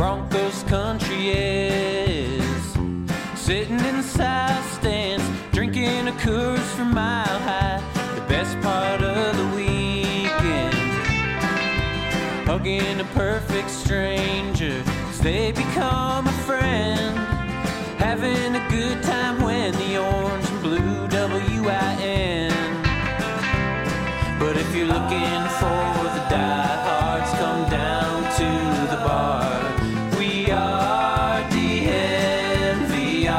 Broncos country is. Sitting in the south stands, drinking a Coors from Mile High. The best part of the weekend, hugging a perfect stranger as they become a friend. Having a good time when the orange and blue WIN. But if you're looking for the diehards, come down to the bar. We are DNVR.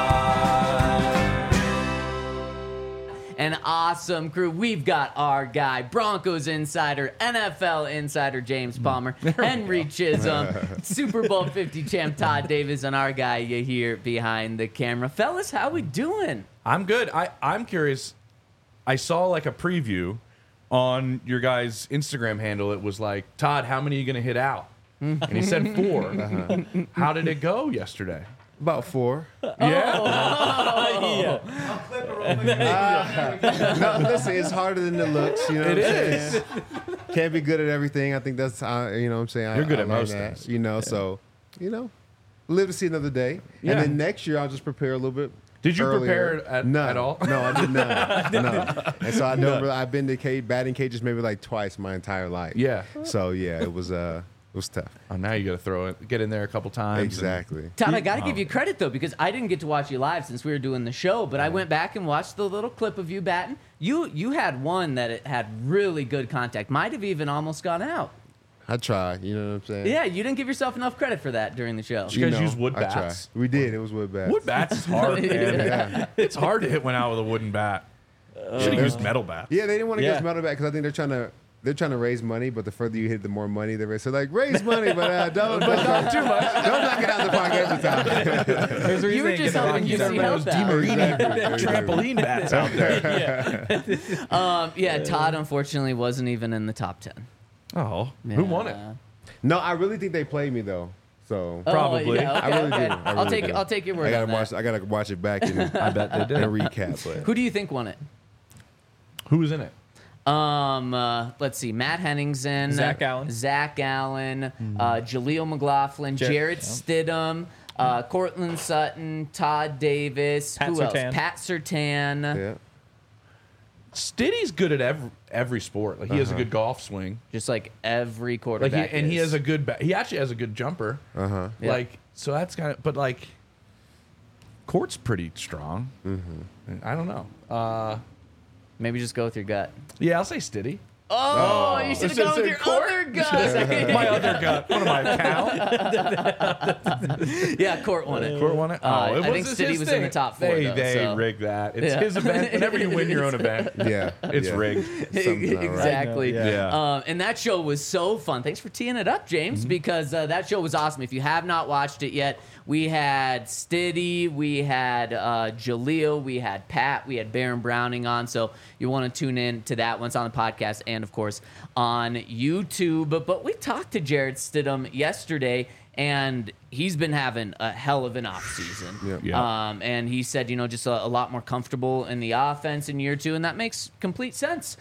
An awesome crew. We've got our guy, Broncos insider, NFL insider James Palmer, Henry Chisholm, Super Bowl 50 champ Todd Davis, and our guy you hear behind the camera. Fellas, how we doing? I'm good. I'm curious. I saw like a preview on your guys' Instagram handle. It was like, Todd, how many are you going to hit out? And he said 4. How did it go yesterday? About 4. Yeah. No, listen, it's harder than it looks. You know what I'm saying? Can't be good at everything. I think that's, you know what I'm saying? You're good at learned most that, things. You know, so, you know, live to see another day. Yeah. And then next year, I'll just prepare a little bit. Did you earlier. prepare at None. all? No, I did not. No. And so I know I've been to batting cages maybe like twice my entire life. Yeah. So, yeah, it was tough. Oh, now you got to get in there a couple times. Exactly. Todd, I got to give you credit, though, because I didn't get to watch you live since we were doing the show, but I went back and watched the little clip of you batting. You had one that it had really good contact. Might have even almost gone out. I tried. You know what I'm saying? Yeah, you didn't give yourself enough credit for that during the show. You guys use wood I tried. bats? We did. It was wood bats. Wood bats is hard, man. Yeah. It's hard to hit one out with a wooden bat. Should have used metal bats. Yeah, they didn't want to get us metal back because I think they're trying to raise money, but the further you hit, the more money they raise. So like, raise money, but don't not too much. Don't knock it out of the park every time. You were just hoping you see help out. Trampoline bats out there. Yeah, Todd unfortunately wasn't even in the top 10. Oh, who won it? No, I really think they played me though. So Probably. Yeah, okay, I really okay. do. I really do. I'll take your word I on that. gotta watch it back and I bet they did. and recap. But Who do you think won it? Who was in it? Let's see. Matt Henningsen, Zach Allen. Jaleel McLaughlin, Jarrett Stidham, Cortland Sutton, Todd Davis. Pat Who Surtain. else? Pat Surtain. yeah, Stiddy's good at every sport. Like he has a good golf swing. Just like every Like quarterback. he has a good. He actually has a good jumper. Yeah. Like so that's kind of. But like, Court's pretty strong. I don't know. Maybe just go with your gut. Yeah, I'll say Stiddy. Oh, you should have gone with your other gut. My other gut. What am I, Cal? Yeah, Court won it. Court won it? I think Stiddy was in the top 4. They though, so. rigged that. It's Yeah. his event. Whenever you win your own event, yeah, it's yeah. rigged. Something's not right. Exactly. Yeah. And that show was so fun. Thanks for teeing it up, James, because that show was awesome. If you have not watched it yet, we had Stiddy, we had Jaleel, we had Pat, we had Baron Browning on. So you want to tune in to that once on the podcast and, of course, on YouTube. But we talked to Jarrett Stidham yesterday, and he's been having a hell of an offseason. Yeah. And he said, just a lot more comfortable in the offense in year 2, and that makes complete sense.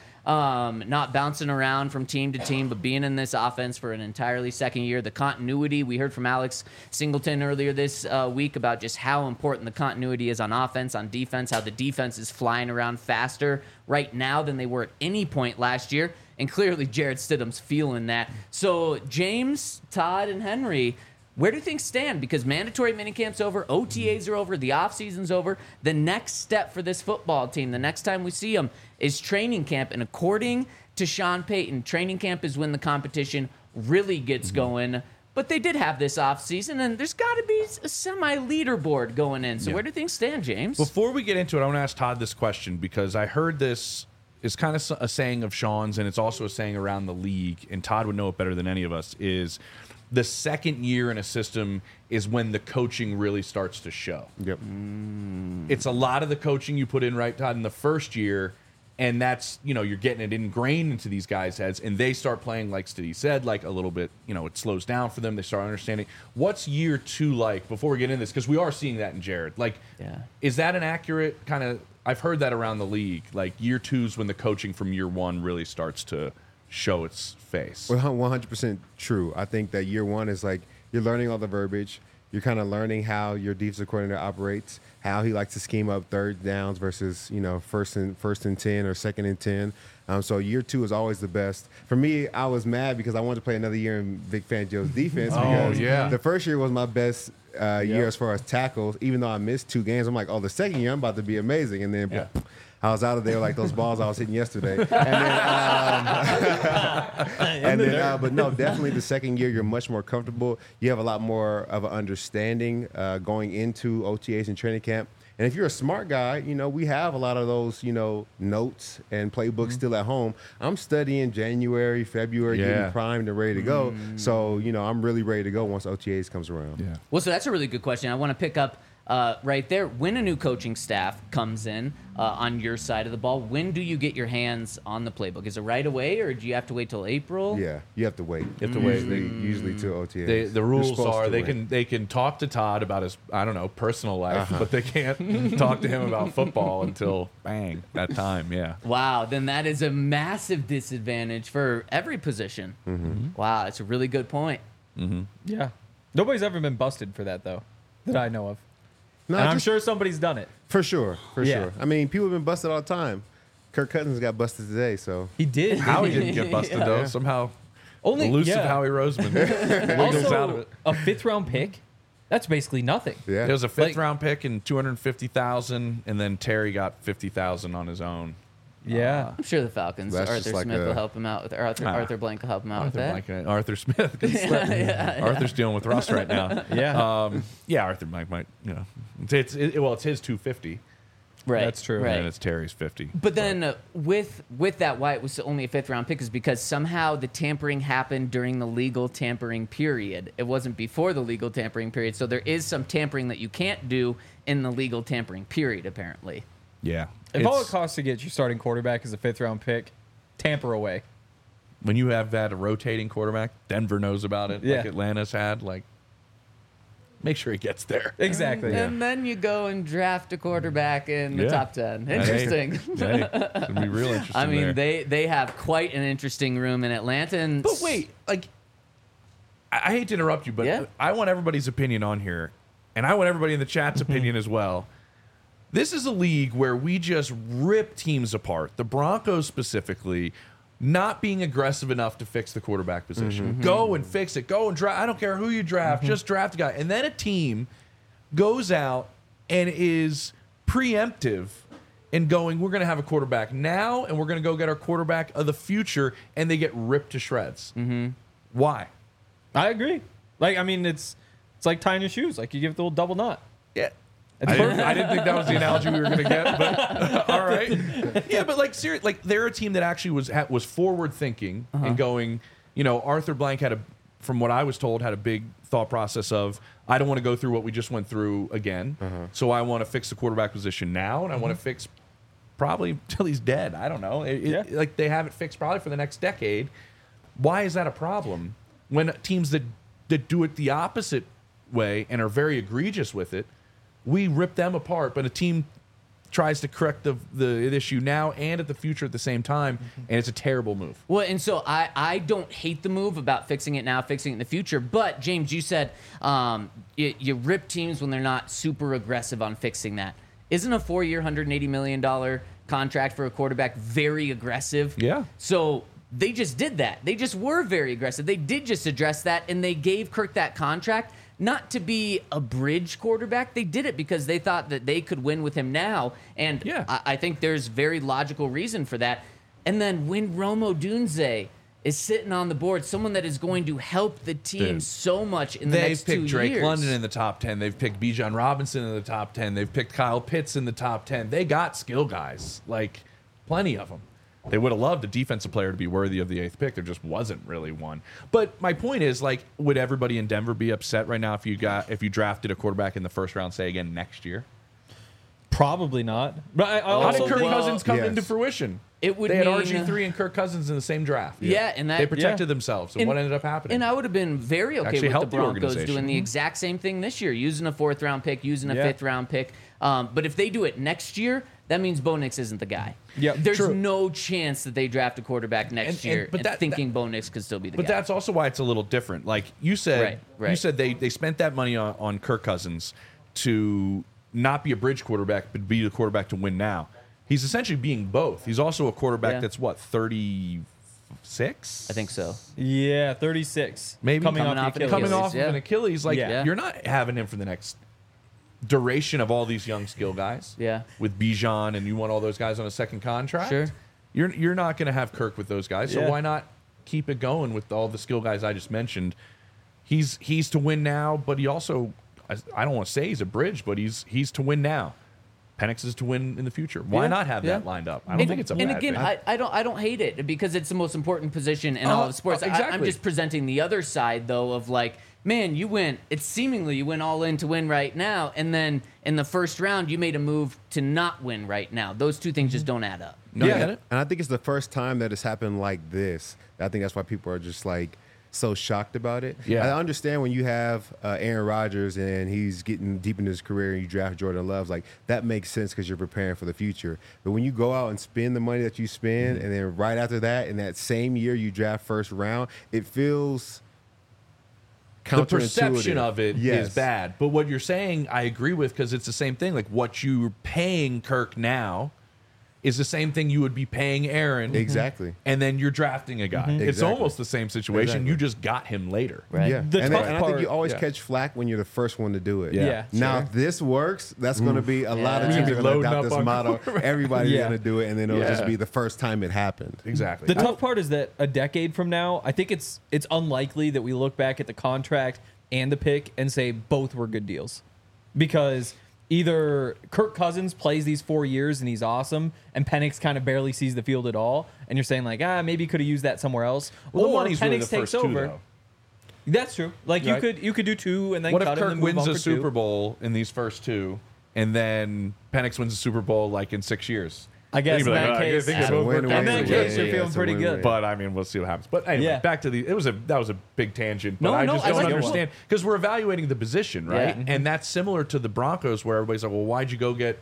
Not bouncing around from team to team, but being in this offense for an entirely second year. The continuity, we heard from Alex Singleton earlier this week about just how important the continuity is on offense, on defense, how the defense is flying around faster right now than they were at any point last year. And clearly Jarrett Stidham's feeling that. So James, Todd, and Henry, where do things stand? Because mandatory minicamp's over, OTAs are over, the offseason's over. The next step for this football team, the next time we see them, is training camp. And according to Sean Payton, training camp is when the competition really gets going. But they did have this offseason, and there's got to be a semi-leaderboard going in. So where do things stand, James? Before we get into it, I want to ask Todd this question because I heard this is kind of a saying of Sean's, and it's also a saying around the league, and Todd would know it better than any of us, is the second year in a system is when the coaching really starts to show. Yep. It's a lot of the coaching you put in, right, Todd, in the first year, and that's, you're getting it ingrained into these guys' heads, and they start playing, like Stiddy said, like a little bit, it slows down for them. They start understanding. What's year 2 like before we get into this? Because we are seeing that in Jarrett. Is that an accurate kind of, I've heard that around the league, like year 2 is when the coaching from year 1 really starts to show its face. Well, 100% true. I think that year 1 is like you're learning all the verbiage. You're kind of learning how your defensive coordinator operates, how he likes to scheme up third downs versus, first and 10 or second and 10. So year 2 is always the best. For me, I was mad because I wanted to play another year in Vic Fangio's defense because the first year was my best year as far as tackles. Even though I missed 2 games, I'm like, the second year I'm about to be amazing. And then I was out of there like those balls I was hitting yesterday. But no, definitely the second year you're much more comfortable. You have a lot more of an understanding going into OTAs and training camp. And if you're a smart guy, we have a lot of those, notes and playbooks still at home. I'm studying January, February, getting primed and ready to go. So, I'm really ready to go once OTAs comes around. Yeah. Well, so that's a really good question. I want to pick up right there. When a new coaching staff comes in on your side of the ball, when do you get your hands on the playbook? Is it right away, or do you have to wait till April? Yeah, you have to wait. You have to wait. Usually till OTAs. The rules are they they can talk to Todd about his personal life, but they can't talk to him about football until bang that time. Yeah. Wow, then that is a massive disadvantage for every position. Wow, that's a really good point. Yeah. Nobody's ever been busted for that, though, that I know of. No, and I'm sure somebody's done it. For sure. I mean, people have been busted all the time. Kirk Cousins got busted today, so. He did. Howie didn't get busted, though. Somehow, elusive Howie Roseman wiggles out of it. A 5th-round pick, that's basically nothing. Yeah. There was a 5th-round pick and $250,000, and then Terry got $50,000 on his own. Yeah. I'm sure the Falcons, That's Arthur just like Smith a- will help him out with Arthur Blank will help him out with that. Arthur Smith. Arthur's dealing with Russ right now. Yeah. Arthur Blank might, it's his 250, Right. That's true. Right. and it's Terry's 50. But then with that, why it was only a 5th-round pick is because somehow the tampering happened during the legal tampering period. It wasn't before the legal tampering period. So there is some tampering that you can't do in the legal tampering period, apparently. Yeah. If all it costs to get your starting quarterback is a 5th-round pick, tamper away. When you have that a rotating quarterback, Denver knows about it, Yeah. like Atlanta's had, make sure he gets there. Exactly. And then you go and draft a quarterback in the Yeah. top 10. Hey, Interesting. hey, it'll be real interesting. I mean, there. they have quite an interesting room in Atlanta. And But wait, I hate to interrupt you, but Yeah. I want everybody's opinion on here, and I want everybody in the chat's opinion as well. This is a league where we just rip teams apart. The Broncos specifically, not being aggressive enough to fix the quarterback position. Go and fix it. Go and draft. I don't care who you draft. Just draft a guy. And then a team goes out and is preemptive in going, we're going to have a quarterback now, and we're going to go get our quarterback of the future, and they get ripped to shreds. Why? I agree. It's like tying your shoes. Like you give it the little double knot. Yeah. It's I didn't think that was the analogy we were going to get, but all right. Yeah, but seriously, they're a team that actually was forward thinking and going, Arthur Blank from what I was told, had a big thought process of, I don't want to go through what we just went through again. So I want to fix the quarterback position now, and I want to fix probably till he's dead. I don't know. They have it fixed probably for the next decade. Why is that a problem? When teams that do it the opposite way and are very egregious with it, we rip them apart, but a team tries to correct the issue now and at the future at the same time, and it's a terrible move. Well, and so I don't hate the move about fixing it now, fixing it in the future. But, James, you said you rip teams when they're not super aggressive on fixing that. Isn't a 4-year, $180 million contract for a quarterback very aggressive? Yeah. So they just did that. They just were very aggressive. They did just address that, and they gave Kirk that contract. Not to be a bridge quarterback. They did it because they thought that they could win with him now. And Yeah. I think there's very logical reason for that. And then when Rome Odunze is sitting on the board, someone that is going to help the team Dude. so much in the They've next 2 picked Drake years. London in the top 10. They've picked Bijan Robinson in the top 10. They've picked Kyle Pitts in the top 10. They got skill guys, plenty of them. They would have loved a defensive player to be worthy of the 8th pick. There just wasn't really one. But my point is, would everybody in Denver be upset right now if you drafted a quarterback in the first round, say again next year? Probably not. But I How also did Kirk think- Cousins come yes. into fruition? It would They had mean- RG3 and Kirk Cousins in the same draft. Yeah, and that- they protected yeah. themselves. And what ended up happening? And I would have been very okay Actually with the helped the Broncos organization. doing the exact same thing this year, using a 4th round pick, using a Yeah. 5th round pick. But if they do it next year, that means Bo Nix isn't the guy. Yeah, There's true. no chance that they draft a quarterback next year thinking Bo Nix could still be the But guy. that's also why it's a little different. Like you said, Right. you said they spent that money on Kirk Cousins to not be a bridge quarterback, but be the quarterback to win now. He's essentially being both. He's also a quarterback Yeah. that's what, 36? I think so. Yeah, 36. Maybe coming Coming off off the an Achilles. Coming off yeah. of an Achilles, like Yeah. you're not having him for the next duration of all these young skill guys. Yeah. With Bijan and you want all those guys on a second contract. Sure. You're not going to have Kirk with those guys. So Yeah. why not keep it going with all the skill guys I just mentioned? He's to win now, but he also, I don't want to say he's a bridge, but he's to win now. Penix is to win in the future. Why Yeah, not have yeah. that lined up? I don't think it's a and bad again, thing. I don't hate it because it's the most important position in all of sports. I'm exactly. just presenting the other side though of like, man, you went all in to win right now, and then in the first round you made a move to not win right now. Those two things just don't add up. No, I Yeah, get it. and I think it's the first time that it's happened like this. I think that's why people are just like so shocked about it. Yeah. I understand when you have Aaron Rodgers and he's getting deep in his career and you draft Jordan Love, like that makes sense because you're preparing for the future. But when you go out and spend the money that you spend, and then right after that, in that same year you draft first round, it feels The perception counterintuitive. of it is Yes. bad. But what you're saying, I agree with because it's the same thing. Like what you're paying Kirk now is the same thing you would be paying Aaron. Exactly. And then you're drafting a guy. It's Exactly. almost the same situation. Exactly. You just got him later. Right. Yeah, The and, tough and I part- think you always yeah. catch flack when you're the first one to do it. Yeah. Now, sure. if this works, that's going to be a lot of Yeah. teams are going to Loading adopt up this on model. Everybody's Yeah. going to do it, and then it'll Yeah. just be the first time it happened. Exactly. The tough part is that a decade from now, I think it's unlikely that we look back at the contract and the pick and say both were good deals, because either Kirk Cousins plays these 4 years and he's awesome, and Penix kind of barely sees the field at all, and you're saying like, maybe you could have used that somewhere else. Well, the Or money's Penix really the takes first two, over. though. That's true. Like Right. you could do two and then What cut if him Kirk and move wins on a for Super two. Bowl in these first two, and then Penix wins a Super Bowl like in 6 years? I guess You'd in be like, that "Oh, I case, think It's they a both work win-win. in that out." case, you're Yeah, feeling it's a pretty win-win. good. But I mean, we'll see what happens. But anyway, Yeah. back to the. It was a big tangent. But No, I no, just I don't like it. understand because we're evaluating the position, right? Yeah. And that's similar to the Broncos, where everybody's like, "Well, why'd you go get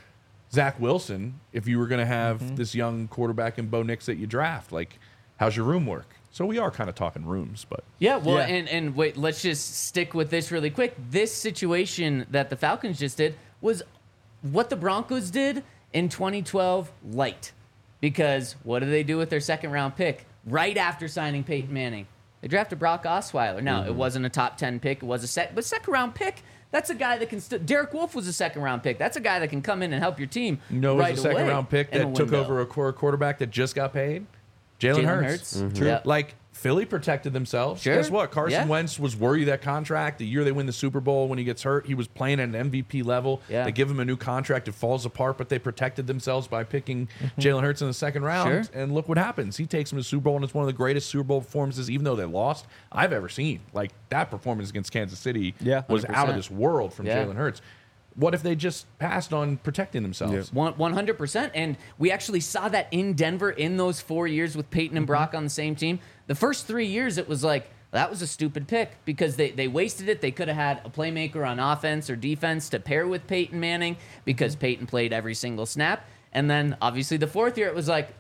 Zach Wilson if you were going to have this young quarterback in Bo Nix that you draft? Like, how's your room work?" So we are kind of talking rooms, but Yeah, well, Yeah. and wait, let's just stick with this really quick. This situation that the Falcons just did was what the Broncos did in 2012 light. Because what do they do with their second round pick right after signing Peyton Manning? They drafted Brock Osweiler. Now, it wasn't a top 10 pick. It was but second round pick, that's a guy that can Derek Wolfe was a second round pick. That's a guy that can come in and help your team you know, right it was a second away round pick in a that took window. over a core quarterback that just got paid. Jalen Hurts. True. Yeah. Like Philly protected themselves. Sure. Guess what? Carson Yeah. Wentz was worthy of that contract. The year they win the Super Bowl, when he gets hurt, he was playing at an MVP level. Yeah. They give him a new contract. It falls apart, but they protected themselves by picking Jalen Hurts in the second round. Sure. And look what happens. He takes him to the Super Bowl, and it's one of the greatest Super Bowl performances, even though they lost, I've ever seen. Like that performance against Kansas City Yeah, was out 100%. of this world from Yeah. Jalen Hurts. What if they just passed on protecting themselves? 100%. And we actually saw that in Denver in those 4 years with Peyton and Brock on the same team. The first 3 years, it was like, that was a stupid pick because they wasted it. They could have had a playmaker on offense or defense to pair with Peyton Manning because Peyton played every single snap. And then obviously the fourth year, it was like,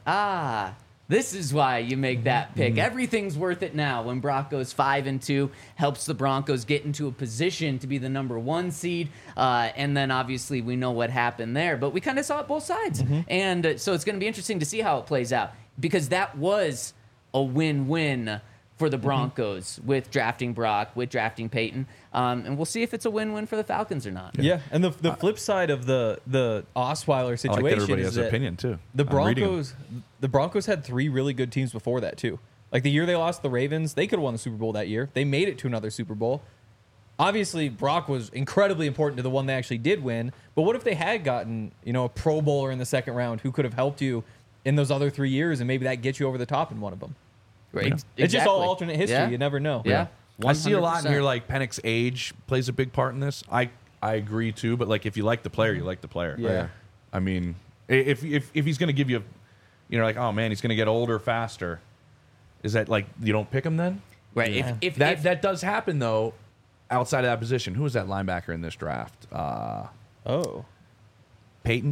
this is why you make that pick. Everything's worth it now when Brock goes 5-2, helps the Broncos get into a position to be the number 1 seed. And then obviously we know what happened there, but we kind of saw it both sides. And so it's going to be interesting to see how it plays out because that was a win-win for the Broncos with drafting Brock, with drafting Peyton. And we'll see if it's a win-win for the Falcons or not. Yeah, and the flip side of the Osweiler I situation like that everybody is has an that opinion, too. The I'm reading 'em. Broncos had 3 really good teams before that too. Like the year they lost the Ravens, they could have won the Super Bowl that year. They made it to another Super Bowl. Obviously, Brock was incredibly important to the one they actually did win. But what if they had gotten, a Pro Bowler in the second round who could have helped you in those other 3 years, and maybe that gets you over the top in one of them? Right. It's just all Exactly. alternate history. Yeah. You never know. Yeah. I see a lot in 100%. here like Penix's age plays a big part in this. I agree too, but like if you like the player, you like the player. Yeah. I mean, if he's going to give you, like, oh man, he's going to get older faster. Is that like you don't pick him then? Right. Yeah. If That does happen though. Outside of that position, who was that linebacker in this draft? Oh. Peyton.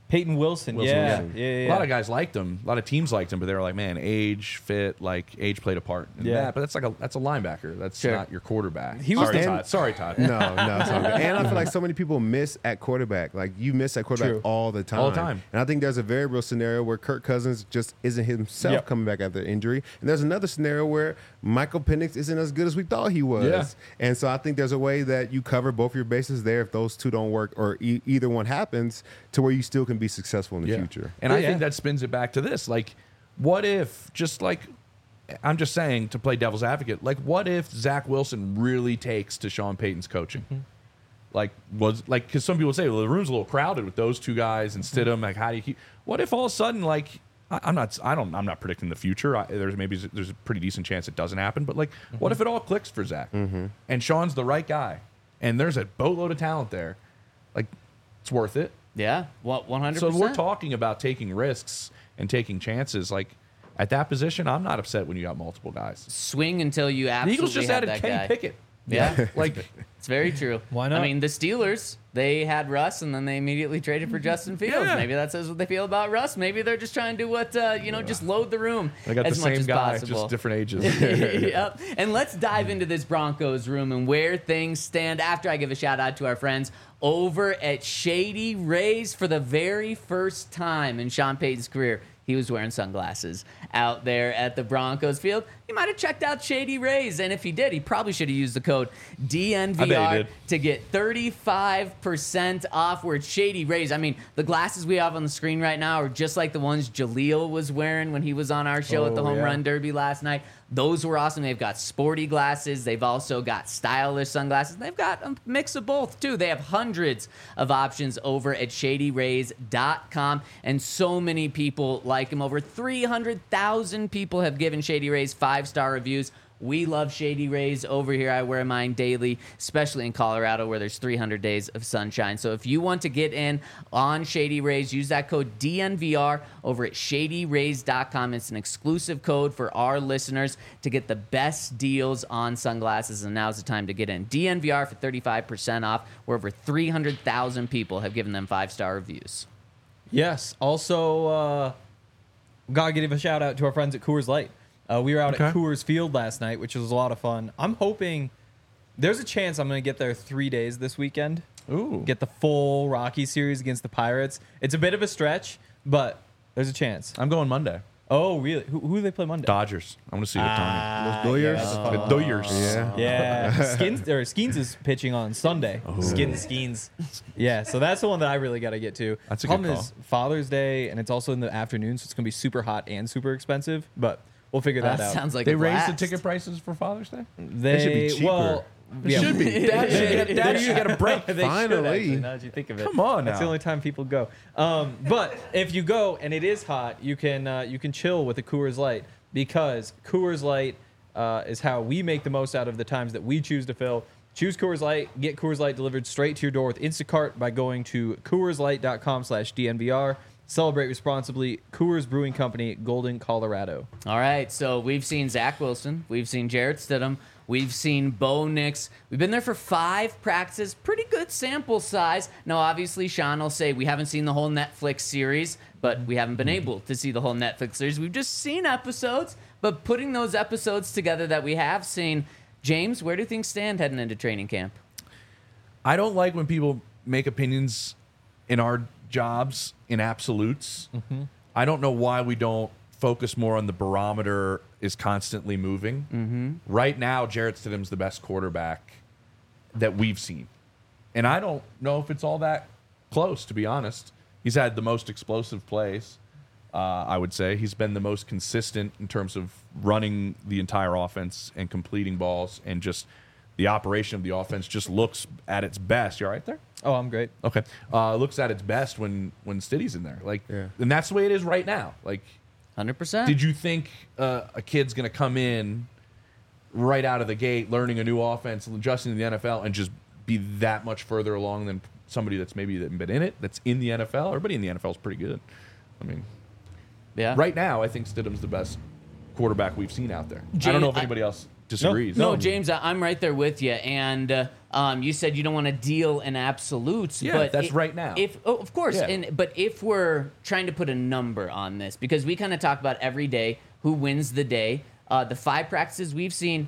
Peyton Wilson. Wilson, Yeah. A lot of guys liked him. A lot of teams liked him, but they were like, man, age, fit, like age played a part. In Yeah. that. But that's a linebacker. That's Sure. not your quarterback. He was Sorry, the- Todd. Sorry, Todd. No, it's all good. And I feel like so many people miss at quarterback. Like you miss at quarterback True. all the time. All the time. And I think there's a very real scenario where Kirk Cousins just isn't himself Yep. coming back after injury. And there's another scenario where Michael Penix isn't as good as we thought he was. Yeah. And so I think there's a way that you cover both your bases there if those two don't work or either one happens to where you still can be successful in the future. And I Yeah. think that spins it back to this. Like, what if, just like, I'm just saying to play devil's advocate, like, what if Zach Wilson really takes to Sean Payton's coaching? Like, because some people say, well, the room's a little crowded with those two guys and Stidham. Like, how do you keep, what if all of a sudden, like, I'm not predicting the future. There's a pretty decent chance it doesn't happen. But, like, what if it all clicks for Zach? And Sean's the right guy? And there's a boatload of talent there. Like, it's worth it. Yeah, 100%. So we're talking about taking risks and taking chances. Like at that position, I'm not upset when you got multiple guys. Swing until you The absolutely Eagles just have added that Kenny guy. Pickett. Yeah, Like it's very true. Why not? I mean, the Steelers, they had Russ, and then they immediately traded for Justin Fields. Yeah. Maybe that says what they feel about Russ. Maybe they're just trying to do what, just load the room they got the as much same as guy, possible. just different ages. Yep. And let's dive into this Broncos room and where things stand after I give a shout out to our friends over at Shady Rays. For the very first time in Sean Payton's career, he was wearing sunglasses out there at the Broncos field. He might have checked out Shady Rays, and if he did, he probably should have used the code DNVR to get 35% off. Where it's Shady Rays. I mean, the glasses we have on the screen right now are just like the ones Jaleel was wearing when he was on our show at the Home Run Derby last night. Those were awesome. They've got sporty glasses. They've also got stylish sunglasses. They've got a mix of both, too. They have hundreds of options over at ShadyRays.com, and so many people like them. Over 300,000 people have given Shady Rays 5-star reviews. We love Shady Rays over here. I wear mine daily, especially in Colorado where there's 300 days of sunshine. So if you want to get in on Shady Rays, use that code DNVR over at ShadyRays.com. It's an exclusive code for our listeners to get the best deals on sunglasses, and now's the time to get in. DNVR for 35% off, where over 300,000 people have given them 5-star reviews. Yes. Also, gotta give a shout out to our friends at Coors Light. We were out at Coors Field last night, which was a lot of fun. I'm hoping there's a chance I'm going to get there 3 days this weekend. Ooh. Get the full Rocky series against the Pirates. It's a bit of a stretch, but there's a chance. I'm going Monday. Oh, really? Who do they play Monday? Dodgers. I'm going to see Ohtani. Those Doyers? Yeah, that's a fun The one. Doyers. Yeah. Yeah, Skeens is pitching on Sunday. Skeens. Yeah, so that's the one that I really got to get to. That's a good Problem call. is Father's Day, and it's also in the afternoon, so it's gonna be super hot and super expensive. But we'll figure that out. Sounds like They a raised the blast. ticket prices for Father's Day? They should be cheaper. Well, yeah, Should be. Dad should get a break. They should, Finally. actually, now that you think of it. Come on That's the now. only time people go. But if you go and it is hot, you can chill with a Coors Light, because Coors Light is how we make the most out of the times that we choose to fill. Choose Coors Light. Get Coors Light delivered straight to your door with Instacart by going to CoorsLight.com/DNVR. Celebrate responsibly. Coors Brewing Company, Golden, Colorado. All right, so we've seen Zach Wilson. We've seen Jarrett Stidham. We've seen Bo Nix. We've been there for 5 practices. Pretty good sample size. Now, obviously, Sean will say we haven't seen the whole Netflix series, but we haven't been able to see the whole Netflix series. We've just seen episodes, but putting those episodes together that we have seen, James, where do things stand heading into training camp? I don't like when people make opinions in our jobs in absolutes. I don't know why we don't focus more on the barometer is constantly moving. Right now, Jarrett Stidham's the best quarterback that we've seen. And I don't know if it's all that close, to be honest. He's had the most explosive plays, I would say. He's been the most consistent in terms of running the entire offense and completing balls, and just the operation of the offense just looks at its best. You all right there? Oh, I'm great. Okay. Looks at its best when Stiddy's in there. Like, Yeah. and that's the way it is right now. Like, 100%. did you think a kid's going to come in right out of the gate, learning a new offense, adjusting to the NFL, and just be that much further along than somebody that's maybe been in it, that's in the NFL? Everybody in the NFL is pretty good. I mean, Yeah. right now, I think Stidham's the best quarterback we've seen out there. I Jay, don't know if I- anybody else disagrees. No, James, I'm right there with you. And you said you don't want to deal in absolutes. Yeah, but that's right now. Of course. Yeah. But if we're trying to put a number on this, because we kind of talk about every day who wins the day, the 5 practices we've seen,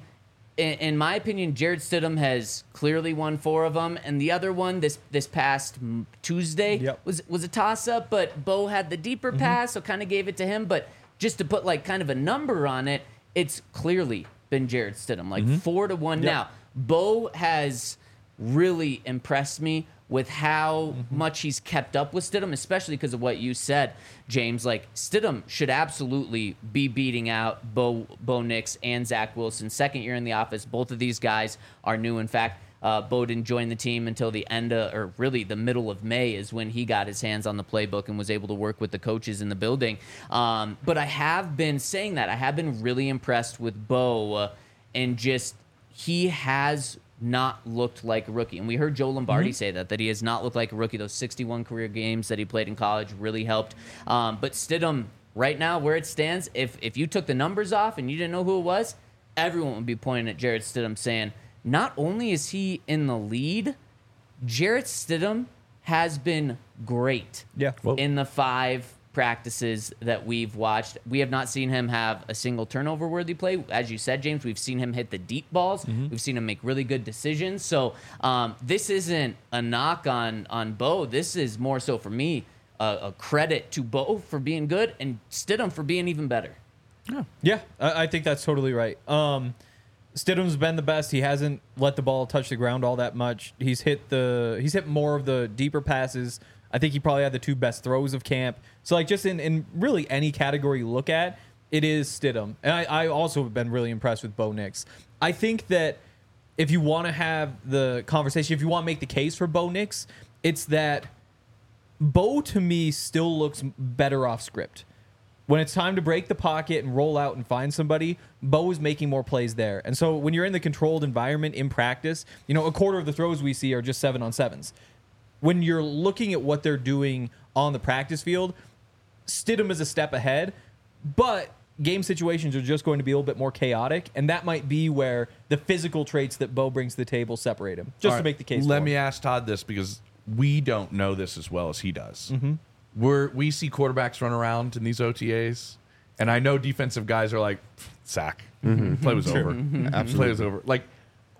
in my opinion, Jared Stidham has clearly won 4 of them, and the other one this past Tuesday Yep. was a toss up. But Bo had the deeper pass, so kind of gave it to him. But just to put like kind of a number on it, it's clearly been Jared Stidham, like 4-1 now. Bo has really impressed me with how much he's kept up with Stidham, especially because of what you said, James. Like, Stidham should absolutely be beating out Bo Nix and Zach Wilson. Second year in the office. Both of these guys are new. In fact, Bo didn't join the team until the end of, or really the middle of May is when he got his hands on the playbook and was able to work with the coaches in the building. But I have been saying that. I have been really impressed with Bo, and just he has not looked like a rookie. And we heard Joe Lombardi say that he has not looked like a rookie. Those 61 career games that he played in college really helped. But Stidham, right now, where it stands, if you took the numbers off and you didn't know who it was, everyone would be pointing at Jarrett Stidham saying, not only is he in the lead, Jarrett Stidham has been great Yeah. in the 5 practices that we've watched. We have not seen him have a single turnover-worthy play. As you said, James, we've seen him hit the deep balls. We've seen him make really good decisions. So this isn't a knock on Bo. This is more so, for me, a credit to Bo for being good and Stidham for being even better. Yeah, I think that's totally right. Stidham's been the best. He hasn't let the ball touch the ground all that much. He's hit more of the deeper passes. I think he probably had the 2 best throws of camp. So, like, just in really any category you look at, it is Stidham. And I also have been really impressed with Bo Nix. I think that if you want to have the conversation, if you want to make the case for Bo Nix, it's that Bo, to me, still looks better off script. When it's time to break the pocket and roll out and find somebody, Bo is making more plays there. And so when you're in the controlled environment in practice, a quarter of the throws we see are just 7-on-7s. When you're looking at what they're doing on the practice field, Stidham is a step ahead, but game situations are just going to be a little bit more chaotic, and that might be where the physical traits that Bo brings to the table separate him, just All to right, make the case Let for me him. ask Todd this, because we don't know this as well as he does. We see quarterbacks run around in these OTAs, and I know defensive guys are like, sack. Play was over. Play was over. Like,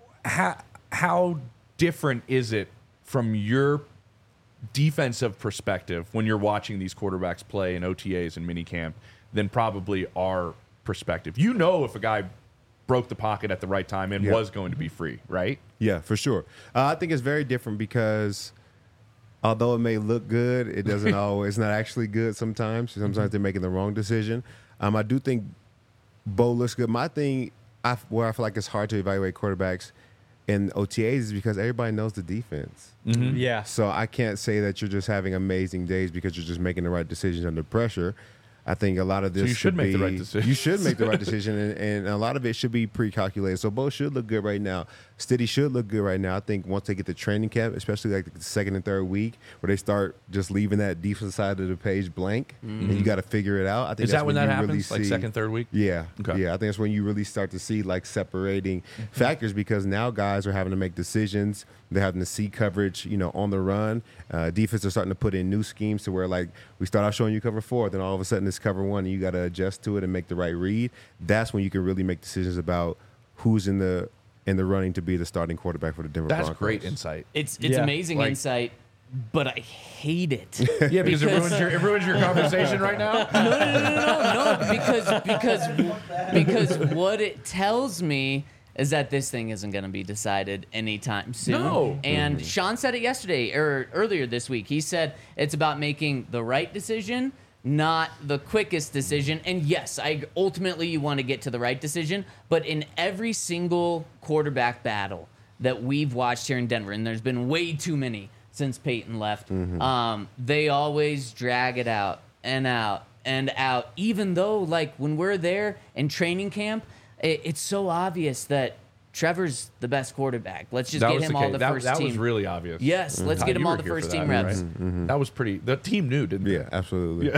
how different is it from your defensive perspective when you're watching these quarterbacks play in OTAs and minicamp than probably our perspective? You know if a guy broke the pocket at the right time and was going to be free, right? Yeah, for sure. I think it's very different because although it may look good, it doesn't always. It's not actually good sometimes. Sometimes they're making the wrong decision. I do think Bo looks good. My thing, where I feel like it's hard to evaluate quarterbacks in OTAs is because everybody knows the defense. Yeah. So I can't say that you're just having amazing days because you're just making the right decisions under pressure. I think a lot of this you should make the right be- decision. You should make the right decision, and a lot of it should be pre-calculated. So Bo should look good right now. Stiddy should look good right now. I think once they get to training camp, especially like the 2nd and 3rd week, where they start just leaving that defensive side of the page blank, and you got to figure it out. I think Is that's that when that you happens? really Like see, 2nd, 3rd week? Yeah, Okay. yeah. I think that's when you really start to see like separating factors, because now guys are having to make decisions. They're having to see coverage, on the run. Defense are starting to put in new schemes to where, like, we start out showing you cover 4, then all of a sudden it's cover 1, and you got to adjust to it and make the right read. That's when you can really make decisions about who's in the running to be the starting quarterback for the Denver That's Broncos. great insight. It's Yeah. amazing Like- insight, but I hate it. Yeah, because it ruins your conversation right now. No, because what it tells me is that this thing isn't going to be decided anytime soon. No. And Sean said it yesterday or earlier this week. He said it's about making the right decision, not the quickest decision. And yes, ultimately you want to get to the right decision, but in every single quarterback battle that we've watched here in Denver, and there's been way too many since Peyton left, they always drag it out and out and out, even though, like, when we're there in training camp, it's so obvious that Trevor's the best quarterback. Let's just That get was him the all case. the That, first that team. was really obvious. Yes, let's get him You all were the here for first that, team right? reps. That was pretty. The team knew, didn't they? Yeah, absolutely.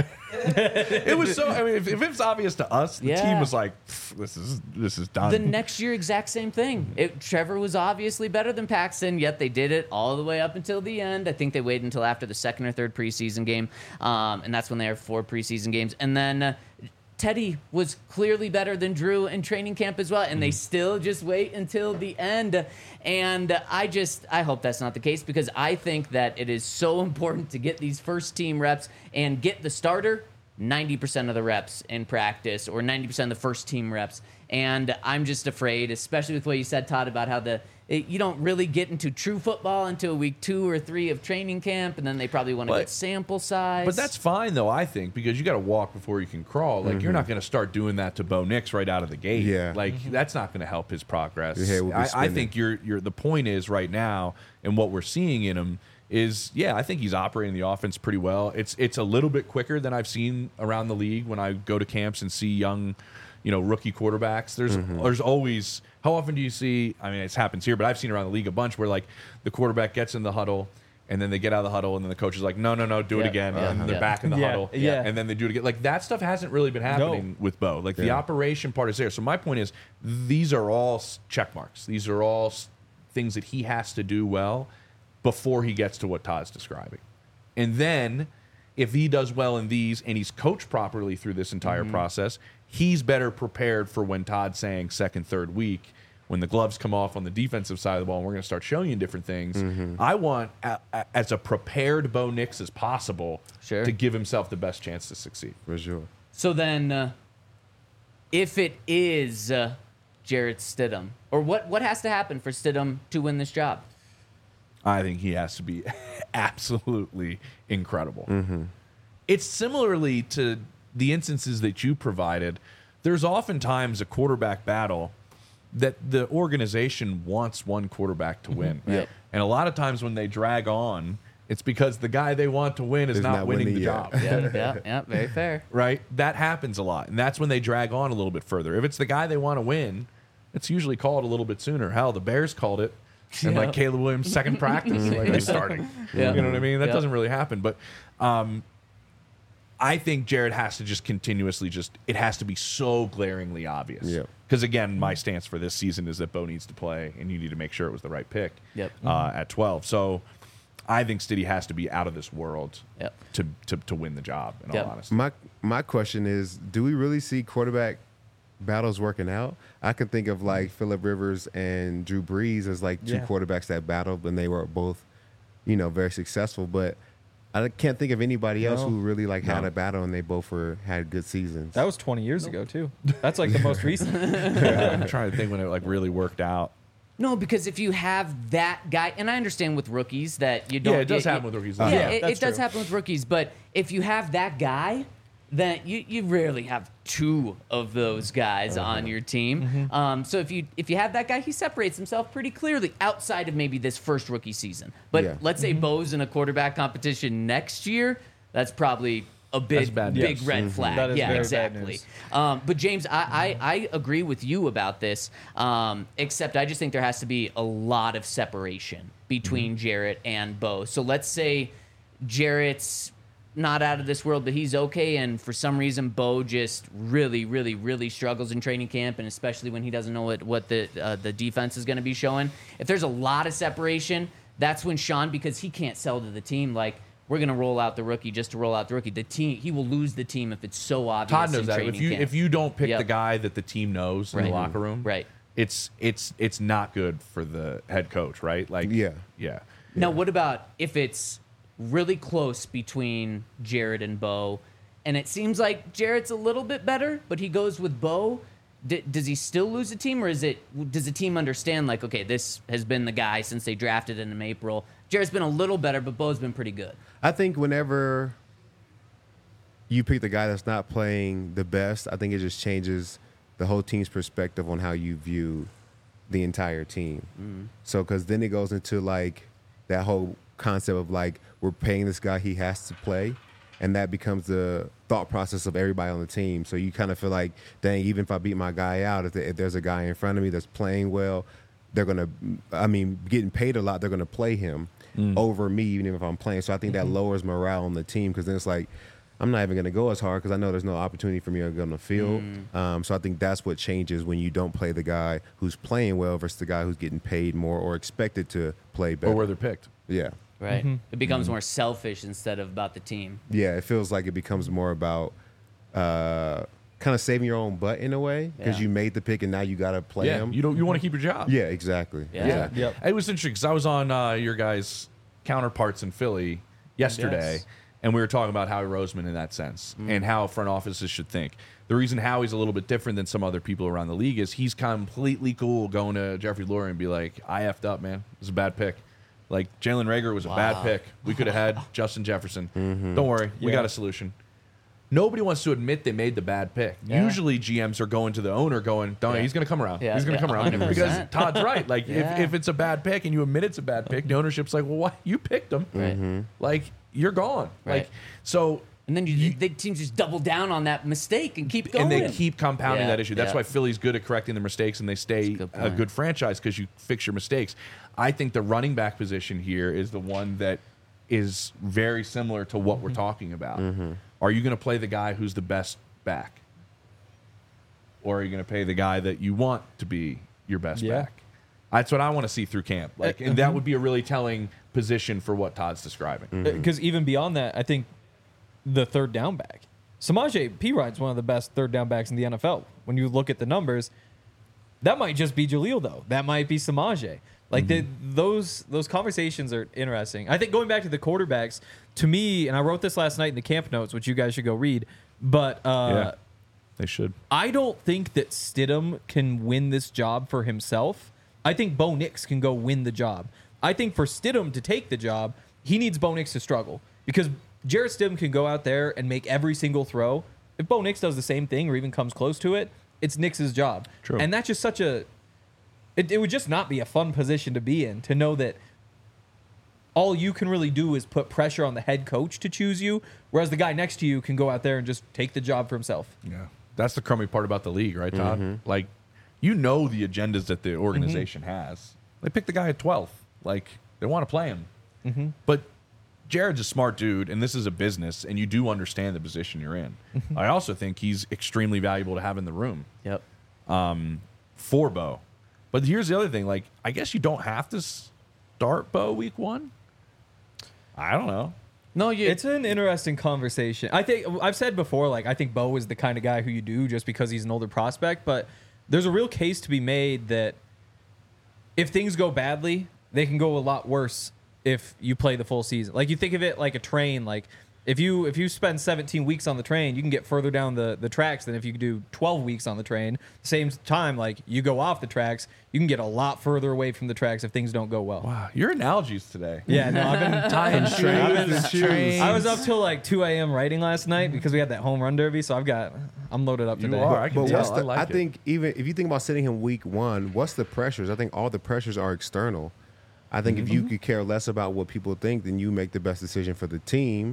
It was so. I mean, if it's obvious to us, the Yeah. team was like, "This is done." The next year, exact same thing. Trevor was obviously better than Paxton, yet they did it all the way up until the end. I think they waited until after the second or third preseason game, and that's when they have 4 preseason games. And then Teddy was clearly better than Drew in training camp as well, and they still just wait until the end. And I hope that's not the case, because I think that it is so important to get these first team reps and get the starter 90% of the reps in practice, or 90% of the first team reps. And I'm just afraid, especially with what you said, Todd, about how you don't really get into true football until week 2 or 3 of training camp, and then they probably want to get sample size. But that's fine, though, I think, because you got to walk before you can crawl. Like, you're not going to start doing that to Bo Nix right out of the gate. Yeah. Like, that's not going to help his progress. Your head will be I spinning. think the point is right now, and what we're seeing in him is, yeah, I think he's operating the offense pretty well. It's a little bit quicker than I've seen around the league when I go to camps and see young, rookie quarterbacks. There's always, how often do you see, I mean, it happens here, but I've seen around the league a bunch where, like, the quarterback gets in the huddle, and then they get out of the huddle, and then the coach is like, no, do it again. And they're back in the huddle. Yeah. And then they do it again. Like, that stuff hasn't really been happening with Bo. Like, the operation part is there. So my point is, these are all check marks. These are all things that he has to do well before he gets to what Todd's describing. And then, if he does well in these and he's coached properly through this entire process, he's better prepared for when Todd's saying second, third week, when the gloves come off on the defensive side of the ball and we're going to start showing you different things. I want, as a prepared Bo Nix as possible, to give himself the best chance to succeed. For sure. So then, if it is Jarrett Stidham, or what has to happen for Stidham to win this job? I think he has to be absolutely incredible. It's similarly to the instances that you provided. There's oftentimes a quarterback battle that the organization wants one quarterback to win. Yep. And a lot of times when they drag on, it's because the guy they want to win is not winning the job. Yeah, very fair. Right? That happens a lot. And that's when they drag on a little bit further. If it's the guy they want to win, it's usually called a little bit sooner. Hell, the Bears called it. And like Caleb Williams' second practice, like he's starting. Yeah. You know what I mean? That Yeah. doesn't really happen. But I think Jared has to just continuously it has to be so glaringly obvious. Yeah. Because again, my stance for this season is that Bo needs to play, and you need to make sure it was the right pick. Yep. At 12. So I think Stiddy has to be out of this world. Yep. To win the job. In Yep. all honesty. My question is, do we really see quarterback battles working out? I can think of like Phillip Rivers and Drew Brees as like two quarterbacks that battled, and they were both, very successful. But I can't think of anybody else who really had a battle, and they both had good seasons. That was 20 years ago, too. That's like the most recent. I'm trying to think when it really worked out. No, because if you have that guy, and I understand with rookies that you don't. Yeah, it does happen with rookies. Yeah, Yeah, it that's does true. happen with rookies. But if you have that guy, then you rarely have 2 of those guys on your team. So if you have that guy, he separates himself pretty clearly outside of maybe this first rookie season. But Yeah. let's say Bo's in a quarterback competition next year, that's probably a big bad big news. red flag. That is Yeah, very bad exactly. news. But James, I agree with you about this, except I just think there has to be a lot of separation between Jarrett and Bo. So let's say Jarrett's not out of this world, but he's okay, and for some reason Bo just really, really, really struggles in training camp, and especially when he doesn't know what the defense is going to be showing. If there's a lot of separation, that's when Sean, because he can't sell to the team like, we're going to roll out the rookie just to roll out the rookie. The team, he will lose the team if it's so obvious. Todd knows in that. training If camp. you don't pick Yep. the guy that the team knows in the Right. locker room, Right. it's not good for the head coach, right? Like, Yeah. Now, what about if it's really close between Jarrett and Bo, and it seems like Jarrett's a little bit better, but he goes with Bo? Does he still lose the team, or does the team understand, like, okay, this has been the guy since they drafted him in April? Jarrett's been a little better, but Bo's been pretty good. I think whenever you pick the guy that's not playing the best, I think it just changes the whole team's perspective on how you view the entire team. So, because then it goes into like that whole concept of like, we're paying this guy, he has to play. And that becomes the thought process of everybody on the team. So you kind of feel like, dang, even if I beat my guy out, if there's a guy in front of me that's playing well, they're going to, I mean, getting paid a lot, they're going to play him over me, even if I'm playing. So I think that lowers morale on the team because then it's like, I'm not even going to go as hard because I know there's no opportunity for me to go on the field. So I think that's what changes when you don't play the guy who's playing well versus the guy who's getting paid more or expected to play better. Or where they're picked. Yeah. Right. It becomes more selfish instead of about the team. Yeah, it feels like it becomes more about kind of saving your own butt in a way because Yeah. you made the pick and now you got to play him. You want to keep your job. Yeah, exactly. Yeah. Exactly. Yep. It was interesting because I was on your guys' counterparts in Philly yesterday, Yes. and we were talking about Howie Roseman in that sense and how front offices should think. The reason Howie's a little bit different than some other people around the league is he's completely cool going to Jeffrey Lurie and be like, I effed up, man. It was a bad pick. Like, Jalen Reagor was a bad pick. We could have had Justin Jefferson. Don't worry. We Yeah. got a solution. Nobody wants to admit they made the bad pick. Yeah. Usually GMs are going to the owner going, don't Yeah. he's going to come around. Yeah, He's going to yeah, come around. 100%. Because Todd's right. Like, Yeah. if it's a bad pick and you admit it's a bad pick, the ownership's like, well, why? You picked him. Right. Like, you're gone. Right. Like, so... And then the teams just double down on that mistake and keep going. And they keep compounding Yeah, that issue. That's yeah. why Philly's good at correcting their mistakes and they stay That's a good a point. good franchise because you fix your mistakes. I think the running back position here is the one that is very similar to what we're talking about. Are you going to play the guy who's the best back? Or are you going to pay the guy that you want to be your best Yeah. back? That's what I want to see through camp. Like, and that would be a really telling position for what Todd's describing. Because even beyond that, I think the third down back, Samaje Perine's one of the best third down backs in the NFL. When you look at the numbers, that might just be Jaleel though. That might be Samaje. Like those conversations are interesting. I think going back to the quarterbacks, to me, and I wrote this last night in the camp notes, which you guys should go read. But Yeah, they should. I don't think that Stidham can win this job for himself. I think Bo Nix can go win the job. I think for Stidham to take the job, he needs Bo Nix to struggle because Jarrett Stidham can go out there and make every single throw. If Bo Nix does the same thing or even comes close to it, it's Nix's job. True. And that's just such a... It would just not be a fun position to be in, to know that all you can really do is put pressure on the head coach to choose you, whereas the guy next to you can go out there and just take the job for himself. Yeah. That's the crummy part about the league, right, Todd? Like, you know the agendas that the organization has. They pick the guy at 12th. Like, they want to play him. But Jared's a smart dude, and this is a business, and you do understand the position you're in. I also think he's extremely valuable to have in the room Yep. for Bo. But here's the other thing. Like, I guess you don't have to start Bo week 1. I don't know. No, you. It's an interesting conversation. I think I've said before, like I think Bo is the kind of guy who you do just because he's an older prospect, but there's a real case to be made that if things go badly, they can go a lot worse if you play the full season. Like you think of it like a train, like if you spend 17 weeks on the train, you can get further down the tracks than if you do 12 weeks on the train. Same time, like you go off the tracks, you can get a lot further away from the tracks if things don't go well. Wow. Your analogies today. Yeah, no, I've been Tying shoes. I was up till like 2 a.m. writing last night because we had that home run derby, so I'm loaded up today. You are. I can But tell. what's I the, like I it. think even if you think about sitting him week 1, what's the pressures? I think all the pressures are external. I think if you could care less about what people think, then you make the best decision for the team.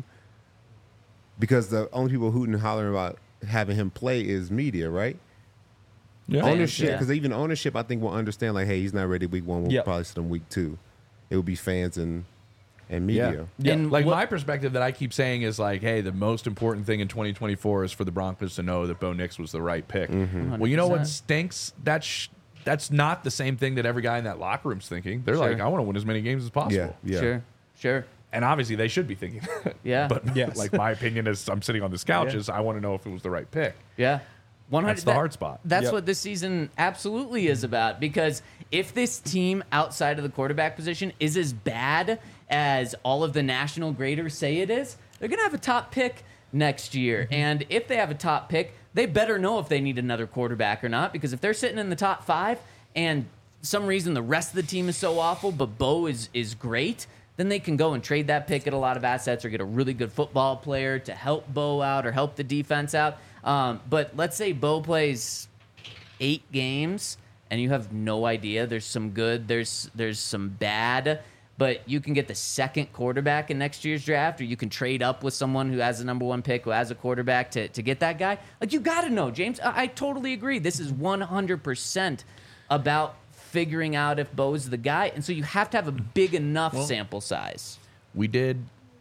Because the only people hooting and hollering about having him play is media, right? Yeah. Ownership, yeah. because even ownership, I think will understand like, hey, he's not ready week 1. We'll Yep. probably sit him week 2. It would be fans and media. Yeah. And Like what- my perspective that I keep saying is like, hey, the most important thing in 2024 is for the Broncos to know that Bo Nix was the right pick. Well, you know what 100%. stinks? That's not the same thing that every guy in that locker room's thinking. They're Sure. like, I want to win as many games as possible. Yeah. Sure. And obviously they should be thinking that. Yeah. But Yes. like my opinion is I'm sitting on this couch is I want to know if it was the right pick. Yeah. 100. That's the hard spot. That's Yep. what this season absolutely is about. Because if this team outside of the quarterback position is as bad as all of the national graders say it is, they're going to have a top pick next year. And if they have a top pick, they better know if they need another quarterback or not. Because if they're sitting in the top 5 and some reason the rest of the team is so awful, but Bo is great, then they can go and trade that pick, get a lot of assets, or get a really good football player to help Bo out or help the defense out. But let's say Bo plays 8 games and you have no idea. There's some good, there's some bad, but you can get the second quarterback in next year's draft, or you can trade up with someone who has the number 1 pick, who has a quarterback to get that guy. Like, you got to know, James. I totally agree. This is 100% about figuring out if Bo's the guy. And so you have to have a big enough sample size. We did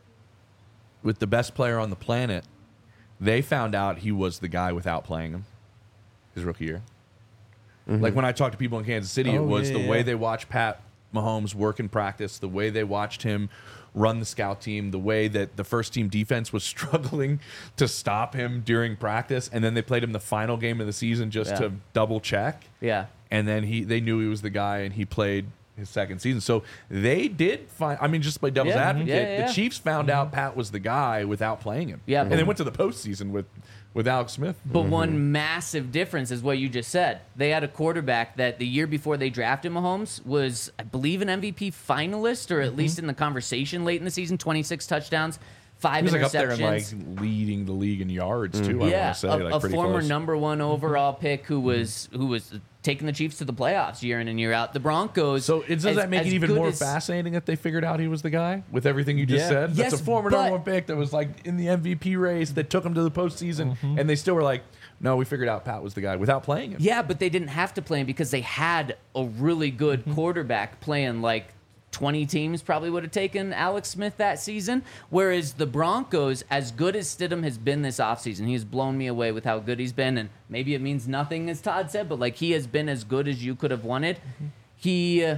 with the best player on the planet. They found out he was the guy without playing him his rookie year. Like when I talked to people in Kansas City, it was the way they watched Pat Mahomes work in practice, the way they watched him run the scout team, the way that the first team defense was struggling to stop him during practice, and then they played him the final game of the season just to double check. Yeah. And then they knew he was the guy, and he played his second season. So they did find, I mean, just by devil's advocate, the Chiefs found out Pat was the guy without playing him. Yeah. And they went to the postseason with Alex Smith. But one massive difference is what you just said. They had a quarterback that the year before they drafted Mahomes was, I believe, an MVP finalist, or at least in the conversation late in the season. 26 touchdowns, 5 He was like up there interceptions. and like leading the league in yards too. I Yeah, want to say like a pretty former close. number 1 overall pick who was taking the Chiefs to the playoffs year in and year out. The Broncos. So does that make it even more fascinating that they figured out he was the guy with everything you just said? Yes, That's a former but- number 1 pick that was like in the MVP race that took him to the postseason, and they still were like, no, we figured out Pat was the guy without playing him. Yeah, but they didn't have to play him because they had a really good quarterback playing. Like 20 teams probably would have taken Alex Smith that season. Whereas the Broncos, as good as Stidham has been this offseason, he's blown me away with how good he's been. And maybe it means nothing, as Todd said, but like he has been as good as you could have wanted. He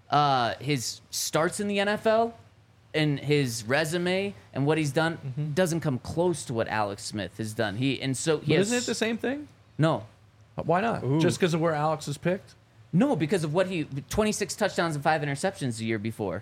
his starts in the NFL and his resume and what he's done doesn't come close to what Alex Smith has done. But isn't it the same thing? No. Why not? Just because of where Alex is picked? No, because of what 26 touchdowns and 5 interceptions the year before.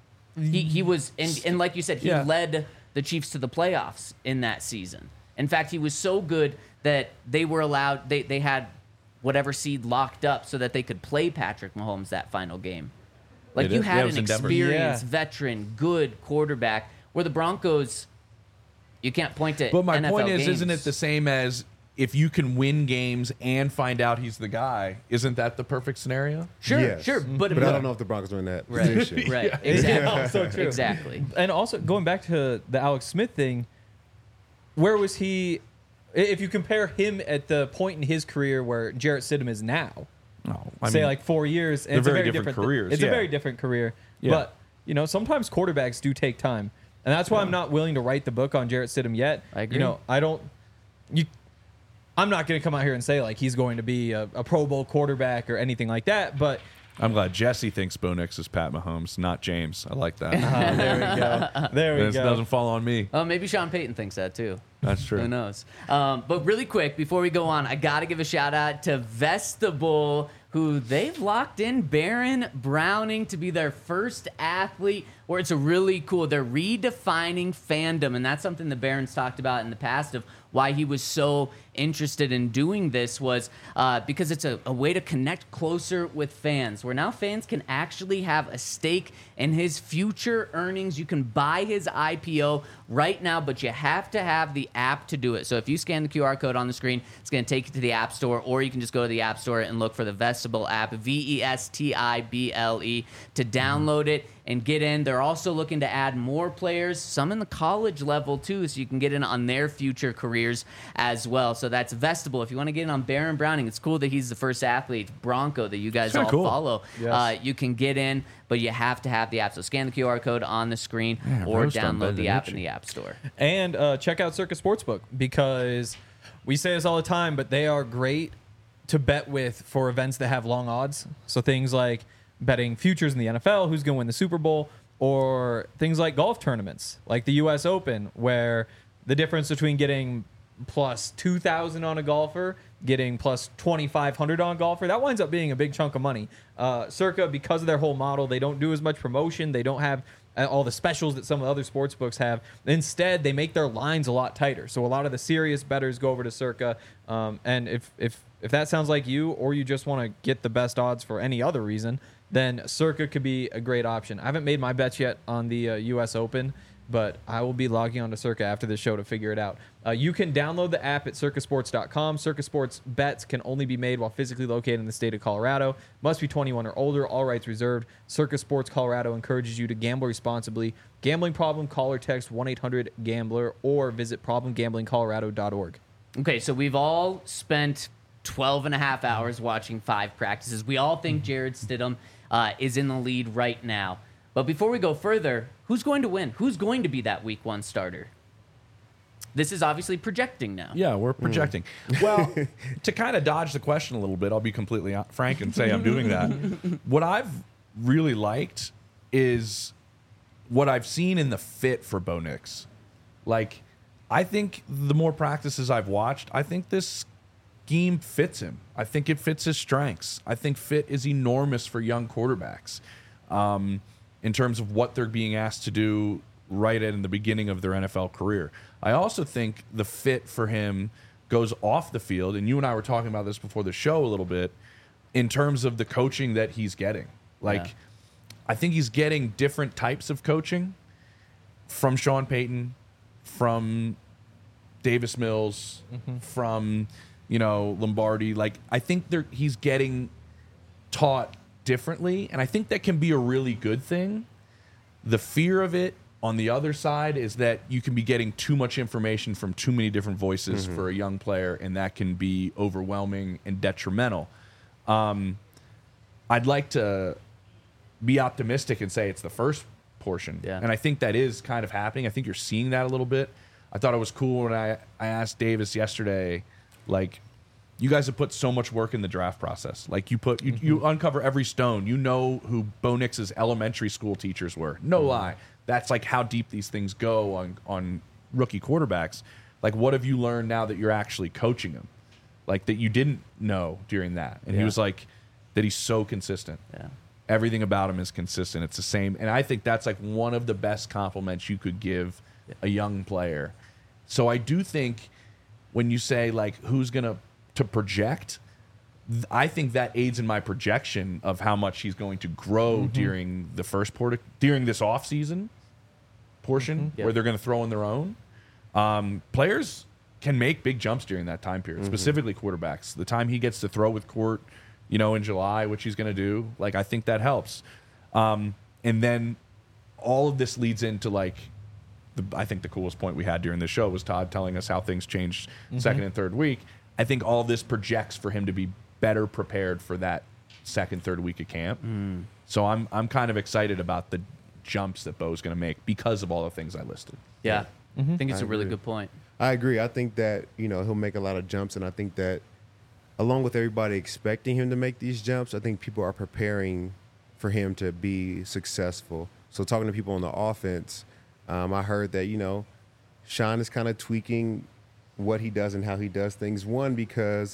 He was, and like you said, he led the Chiefs to the playoffs in that season. In fact, he was so good that they were allowed, they had whatever seed locked up so that they could play Patrick Mahomes that final game. Like They you did? had Yeah, it an was in Denver. experienced veteran, good quarterback, where the Broncos, you can't point to But my NFL point is, games. isn't it the same as if you can win games and find out he's the guy? Isn't that the perfect scenario? Sure, Yes. sure. But I don't know if the Broncos are in that Right, position. right. Exactly. So true. Exactly. And also going back to the Alex Smith thing, where was he? If you compare him at the point in his career where Jarrett Stidham is now, say like 4 years, and they're it's a very very different careers, It's a yeah. very different career. Yeah. But you know, sometimes quarterbacks do take time, and that's why I'm not willing to write the book on Jarrett Stidham yet. I agree. You know, I'm not going to come out here and say like he's going to be a Pro Bowl quarterback or anything like that, but. I'm glad Jesse thinks Bo Nix is Pat Mahomes, not James. I like that. There we go. There we This go. doesn't fall on me. Oh, maybe Sean Payton thinks that too. That's true. Who knows? But really quick, before we go on, I got to give a shout out to Vestibule, who they've locked in Baron Browning to be their first athlete, where it's a really cool, they're redefining fandom. And that's something the Barons talked about in the past of why he was so interested in doing this was because it's a way to connect closer with fans, where now fans can actually have a stake in his future earnings. You can buy his IPO right now, but you have to have the app to do it. So if you scan the QR code on the screen, it's going to take you to the App Store, or you can just go to the App Store and look for the Vestibule app, Vestible, to download it and get in. They're also looking to add more players, some in the college level too, so you can get in on their future careers as well. So that's Vestibule. If you want to get in on Baron Browning, it's cool that he's the first athlete, Bronco, that you guys all cool. follow. Yes. You can get in, but you have to have the app. So scan the QR code on the screen or roast on download the app Benucci. in the App Store. And check out Circus Sportsbook, because we say this all the time, but they are great to bet with for events that have long odds. So things like betting futures in the NFL, who's going to win the Super Bowl, or things like golf tournaments, like the U.S. Open, where the difference between getting plus 2,000 on a golfer, getting plus 2,500 on a golfer, that winds up being a big chunk of money. Circa, because of their whole model, they don't do as much promotion. They don't have all the specials that some of the other sports books have. Instead, they make their lines a lot tighter. So a lot of the serious bettors go over to Circa. And if that sounds like you, or you just want to get the best odds for any other reason, then Circa could be a great option. I haven't made my bets yet on the U.S. Open, but I will be logging on to Circa after this show to figure it out. You can download the app at circusports.com. Circa Sports bets can only be made while physically located in the state of Colorado. Must be 21 or older. All rights reserved. Circa Sports Colorado encourages you to gamble responsibly. Gambling problem? Call or text 1-800-GAMBLER or visit problemgamblingcolorado.org. Okay, so we've all spent 12 and a half hours watching 5 practices. We all think Jarrett Stidham is in the lead right now. But before we go further, who's going to win? Who's going to be that week 1 starter? This is obviously projecting now. Yeah, we're projecting. Well, to kind of dodge the question a little bit, I'll be completely frank and say I'm doing that. What I've really liked is what I've seen in the fit for Bo Nix. Like, I think the more practices I've watched, I think this scheme fits him. I think it fits his strengths. I think fit is enormous for young quarterbacks in terms of what they're being asked to do right in the beginning of their NFL career. I also think the fit for him goes off the field, and you and I were talking about this before the show a little bit, in terms of the coaching that he's getting. Like, Yeah. I think he's getting different types of coaching from Sean Payton, from Davis Mills, from, Lombardi. Like, I think he's getting taught differently, and I think that can be a really good thing. The fear of it on the other side is that you can be getting too much information from too many different voices for a young player, and that can be overwhelming and detrimental. I'd like to be optimistic and say it's the first portion. Yeah. And I think that is kind of happening. I think you're seeing that a little bit. I thought it was cool when I asked Davis yesterday, like, you guys have put so much work in the draft process. Like, you uncover every stone. You know who Bo Nix's elementary school teachers were. No lie. That's like how deep these things go on rookie quarterbacks. Like, what have you learned now that you're actually coaching them? Like, that you didn't know during that. And he was like, that he's so consistent. Yeah. Everything about him is consistent. It's the same. And I think that's like one of the best compliments you could give a young player. So I do think when you say, like, who's going to project, I think that aids in my projection of how much he's going to grow during the first during this offseason portion where they're going to throw in their own. Players can make big jumps during that time period, specifically quarterbacks. The time he gets to throw with Court, in July, which he's going to do, like, I think that helps. And then all of this leads into, like, I think the coolest point we had during the show was Todd telling us how things changed second and third week. I think all of this projects for him to be better prepared for that second, third week of camp. So I'm kind of excited about the jumps that Bo's going to make because of all the things I listed. Yeah. I think it's I a really agree. good point. I agree. I think that, he'll make a lot of jumps, and I think that along with everybody expecting him to make these jumps, I think people are preparing for him to be successful. So talking to people on the offense, I heard that, Sean is kind of tweaking what he does and how he does things. One, because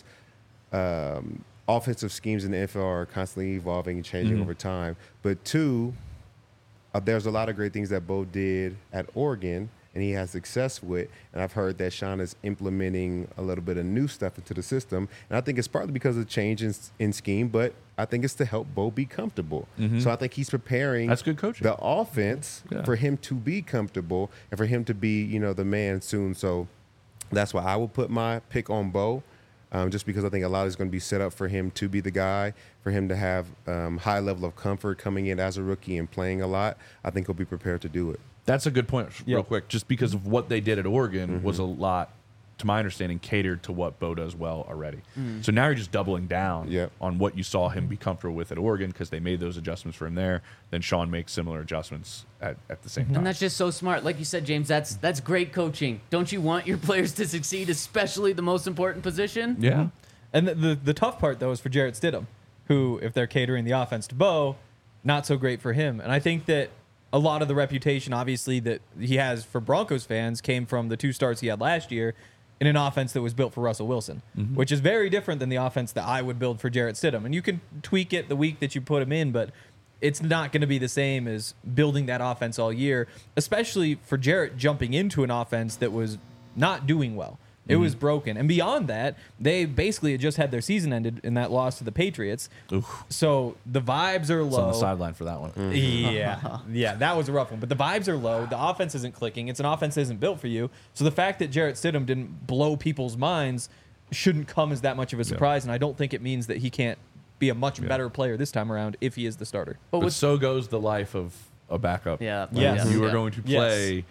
offensive schemes in the NFL are constantly evolving and changing over time. But two, there's a lot of great things that Bo did at Oregon and he has success with. And I've heard that Sean is implementing a little bit of new stuff into the system. And I think it's partly because of change in scheme, but I think it's to help Bo be comfortable. So I think he's preparing That's good coaching. the offense Yeah. for him to be comfortable and for him to be, the man soon. So that's why I will put my pick on Bo, just because I think a lot is going to be set up for him to be the guy, for him to have high level of comfort coming in as a rookie and playing a lot. I think he'll be prepared to do it. That's a good point, real Yep. quick. Just because of what they did at Oregon was a lot, to my understanding, catered to what Bo does well already. So now you're just doubling down Yep. on what you saw him be comfortable with at Oregon because they made those adjustments for him there. Then Sean makes similar adjustments at the same time. And that's just so smart. Like you said, James, that's great coaching. Don't you want your players to succeed, especially the most important position? Yeah. And the tough part, though, is for Jarrett Stidham, who, if they're catering the offense to Bo, not so great for him. And I think that a lot of the reputation, obviously, that he has for Broncos fans came from the 2 starts he had last year in an offense that was built for Russell Wilson, which is very different than the offense that I would build for Jarrett Stidham. And you can tweak it the week that you put him in, but it's not going to be the same as building that offense all year, especially for Jarrett jumping into an offense that was not doing well. It was broken. And beyond that, they basically had just had their season ended in that loss to the Patriots. Oof. So the vibes are It's low. on the sideline for that one. Yeah, that was a rough one. But the vibes are low. The offense isn't clicking. It's an offense that isn't built for you. So the fact that Jarrett Stidham didn't blow people's minds shouldn't come as that much of a surprise. And I don't think it means that he can't be a much better player this time around if he is the starter. But But with so goes the life of a backup. Yeah. Yes. You are Yeah. going to Yes. play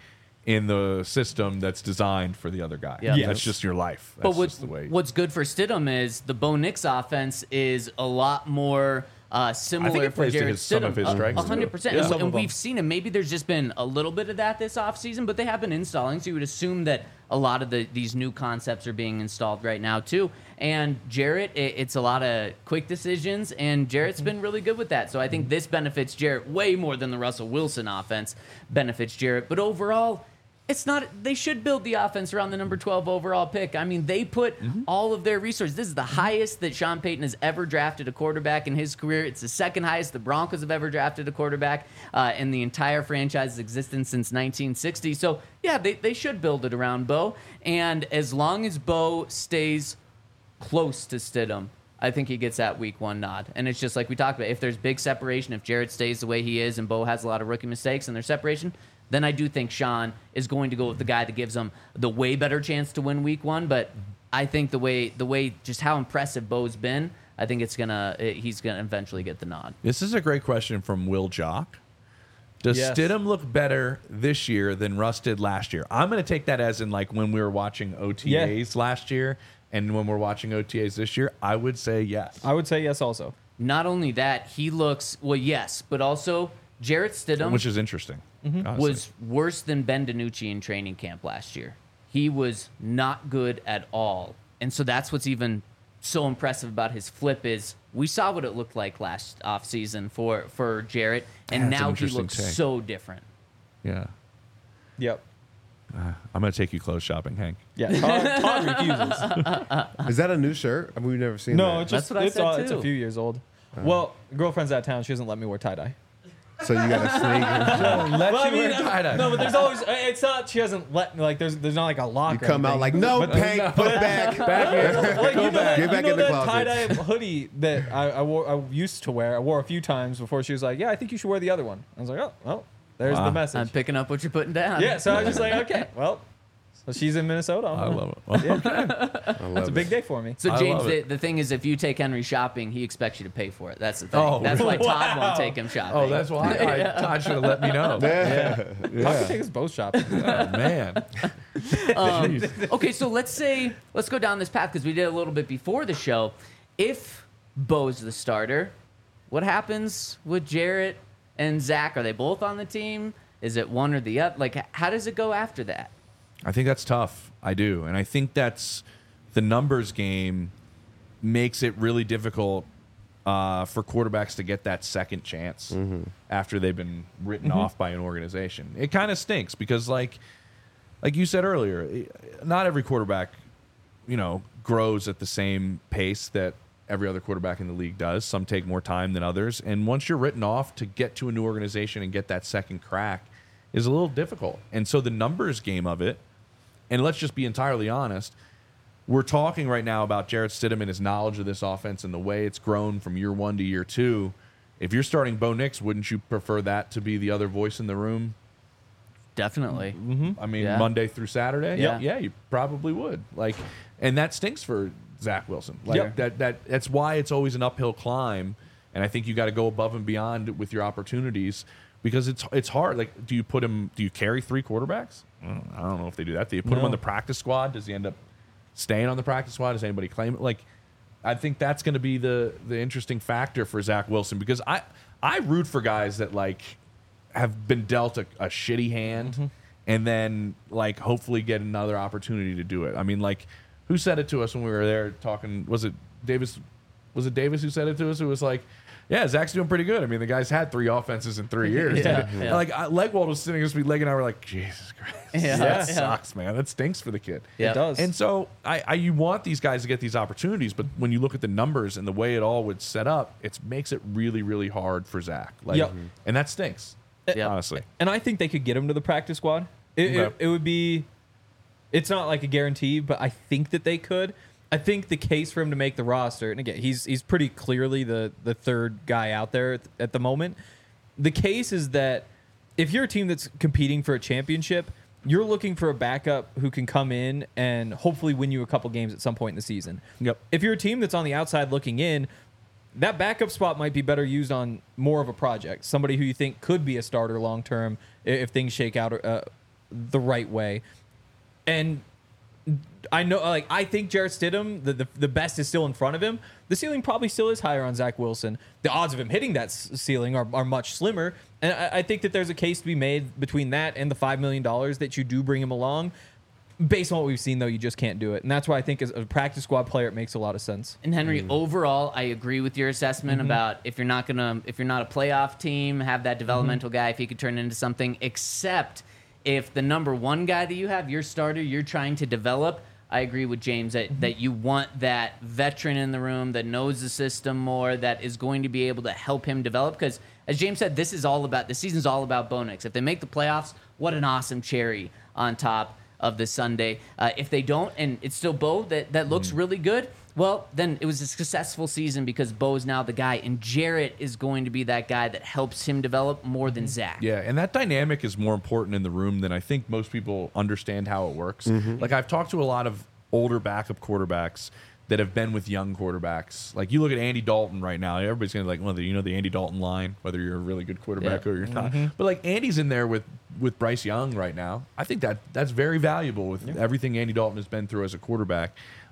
in the system that's designed for the other guy. Yeah. That's just your life. But That's just the way. what's good for Stidham is the Bo Nix offense is a lot more similar it for plays to Jarrett some of Stidham. his strengths, too. 100%. Yeah. And, Some of and them. we've seen him. Maybe there's just been a little bit of that this offseason, but they have been installing. So you would assume that a lot of these new concepts are being installed right now, too. And Jarrett, it's a lot of quick decisions, and Jarrett's been really good with that. So I think this benefits Jarrett way more than the Russell Wilson offense benefits Jarrett. But overall, it's not. They should build the offense around the number 12 overall pick. I mean, they put all of their resources. This is the highest that Sean Payton has ever drafted a quarterback in his career. It's the second highest the Broncos have ever drafted a quarterback in the entire franchise's existence since 1960. So, yeah, they should build it around Bo. And as long as Bo stays close to Stidham, I think he gets that week 1 nod. And it's just like we talked about. If there's big separation, if Jarrett stays the way he is and Bo has a lot of rookie mistakes and there's separation, then I do think Sean is going to go with the guy that gives him the way better chance to win week 1. But I think the way just how impressive Bo's been, I think he's gonna eventually get the nod. This is a great question from Will Jock. Does Yes. Stidham look better this year than Russ did last year? I'm going to take that as in like when we were watching OTAs last year and when we're watching OTAs this year. I would say yes. I would say yes also. Not only that, he looks yes, but also Jarrett Stidham, Which is interesting. honestly. was worse than Ben DiNucci in training camp last year. He was not good at all. And so that's what's even so impressive about his flip is we saw what it looked like last offseason for Jarrett, and That's an now he interesting looks take. so different. Yeah. Yep. I'm going to take you clothes shopping, Hank. Yeah. Todd refuses. Is that a new shirt? I mean, we've never seen No, that. it's just That's what I said, it's too. a few years old. Well, girlfriend's out of town. She doesn't let me wear tie dye. So you got to sneak. Let Well, I you wear mean, tie-dye. no, but there's always. It's not. She doesn't let me. Like, there's not like a lock. You or come out anything. like, no, Hank, put back. Back here. Like, you know that, Get back you know in the that closet. tie-dye hoodie that I wore. I used to wear. I wore a few times before she was like, "Yeah, I think you should wear the other one." I was like, "Oh, well, there's Wow. the message." I'm picking up what you're putting down. Yeah, so I was just like, "Okay, well." So she's in Minnesota. I love it. Well, It's a big day for me. So I James, love it. the thing is, if you take Henry shopping, he expects you to pay for it. That's the thing. Oh, That's why Todd wow. won't take him shopping. Oh, that's why. Todd should have let me know. I could take us both shopping. Oh, man. Okay, so let's go down this path because we did a little bit before the show. If Bo's the starter, what happens with Jarrett and Zach? Are they both on the team? Is it one or the other? Like, how does it go after that? I think that's tough. I do. And I think that's the numbers game makes it really difficult for quarterbacks to get that second chance after they've been written off by an organization. It kind of stinks because like you said earlier, not every quarterback, grows at the same pace that every other quarterback in the league does. Some take more time than others. And once you're written off, to get to a new organization and get that second crack is a little difficult. And so the numbers game of it, and let's just be entirely honest, we're talking right now about Jarrett Stidham and his knowledge of this offense and the way it's grown from year 1 to year 2. If you're starting Bo Nix, wouldn't you prefer that to be the other voice in the room? Definitely. I mean, Yeah. Monday through Saturday? Yeah. Yeah, you probably would. And that stinks for Zach Wilson. Yep. That's why it's always an uphill climb. And I think you got to go above and beyond with your opportunities because it's hard. Like, do you carry 3 quarterbacks? I don't know if they do that. Do you put him on the practice squad? Does he end up staying on the practice squad? Does anybody claim it? Like, I think that's going to be the interesting factor for Zach Wilson because I root for guys that have been dealt a shitty hand and then hopefully get another opportunity to do it. I mean, who said it to us when we were there talking? Was it Davis? Was it Davis who said it to us? It was like, yeah, Zach's doing pretty good. I mean, the guy's had 3 offenses in 3 years. Yeah. Legwold was sitting next to me, Leg and I were like, Jesus Christ, that sucks, man. That stinks for the kid. Yeah. It does. And so you want these guys to get these opportunities, but when you look at the numbers and the way it all would set up, it makes it really, really hard for Zach. Yep. And that stinks, Yeah. honestly. And I think they could get him to the practice squad. Okay. It would be. It's not like a guarantee, but I think that they could. I think the case for him to make the roster, and again, he's pretty clearly the third guy out there at the moment. The case is that if you're a team that's competing for a championship, you're looking for a backup who can come in and hopefully win you a couple games at some point in the season. Yep. If you're a team that's on the outside looking in, that backup spot might be better used on more of a project. Somebody who you think could be a starter long term if things shake out the right way. And I know, like, I think Jarrett Stidham, the best is still in front of him. The ceiling probably still is higher on Zach Wilson. The odds of him hitting that ceiling are much slimmer. And I think that there's a case to be made between that and the $5 million that you do bring him along. Based on what we've seen, though, you just can't do it. And that's why I think as a practice squad player, it makes a lot of sense. And Henry, overall, I agree with your assessment about if you're not a playoff team, have that developmental guy, if he could turn into something, except if the number one guy that you have, your starter, you're trying to develop. I agree with James that you want that veteran in the room that knows the system more, that is going to be able to help him develop. Because as James said, the season's all about Bo Nix. If they make the playoffs, what an awesome cherry on top of the Sunday. If they don't, and it's still Bo that looks really good, well, then it was a successful season because Bo's now the guy, and Jarrett is going to be that guy that helps him develop more than Zach. Yeah, and that dynamic is more important in the room than I think most people understand how it works. Like, I've talked to a lot of older backup quarterbacks that have been with young quarterbacks. Like, you look at Andy Dalton right now, everybody's going to be like, well, the Andy Dalton line, whether you're a really good quarterback or you're not. But, like, Andy's in there with Bryce Young right now. I think that's very valuable with everything Andy Dalton has been through as a quarterback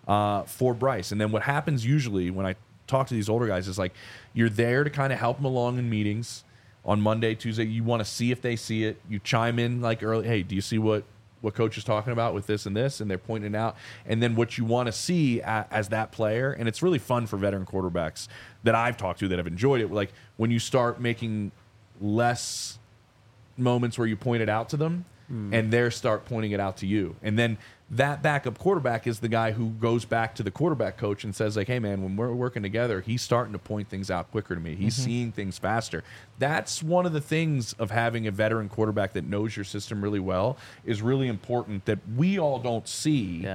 for Bryce. And then what happens usually when I talk to these older guys is, like, you're there to kind of help them along in meetings on Monday, Tuesday. You want to see if they see it. You chime in, like, early, hey, do you see what coach is talking about with this and this, and they're pointing it out, and then what you want to see as that player. And it's really fun for veteran quarterbacks that I've talked to that have enjoyed it, like when you start making less moments where you point it out to them and they start pointing it out to you, and then that backup quarterback is the guy who goes back to the quarterback coach and says, like, hey man, when we're working together, he's starting to point things out quicker to me. He's seeing things faster. That's one of the things of having a veteran quarterback that knows your system really well is really important that we all don't see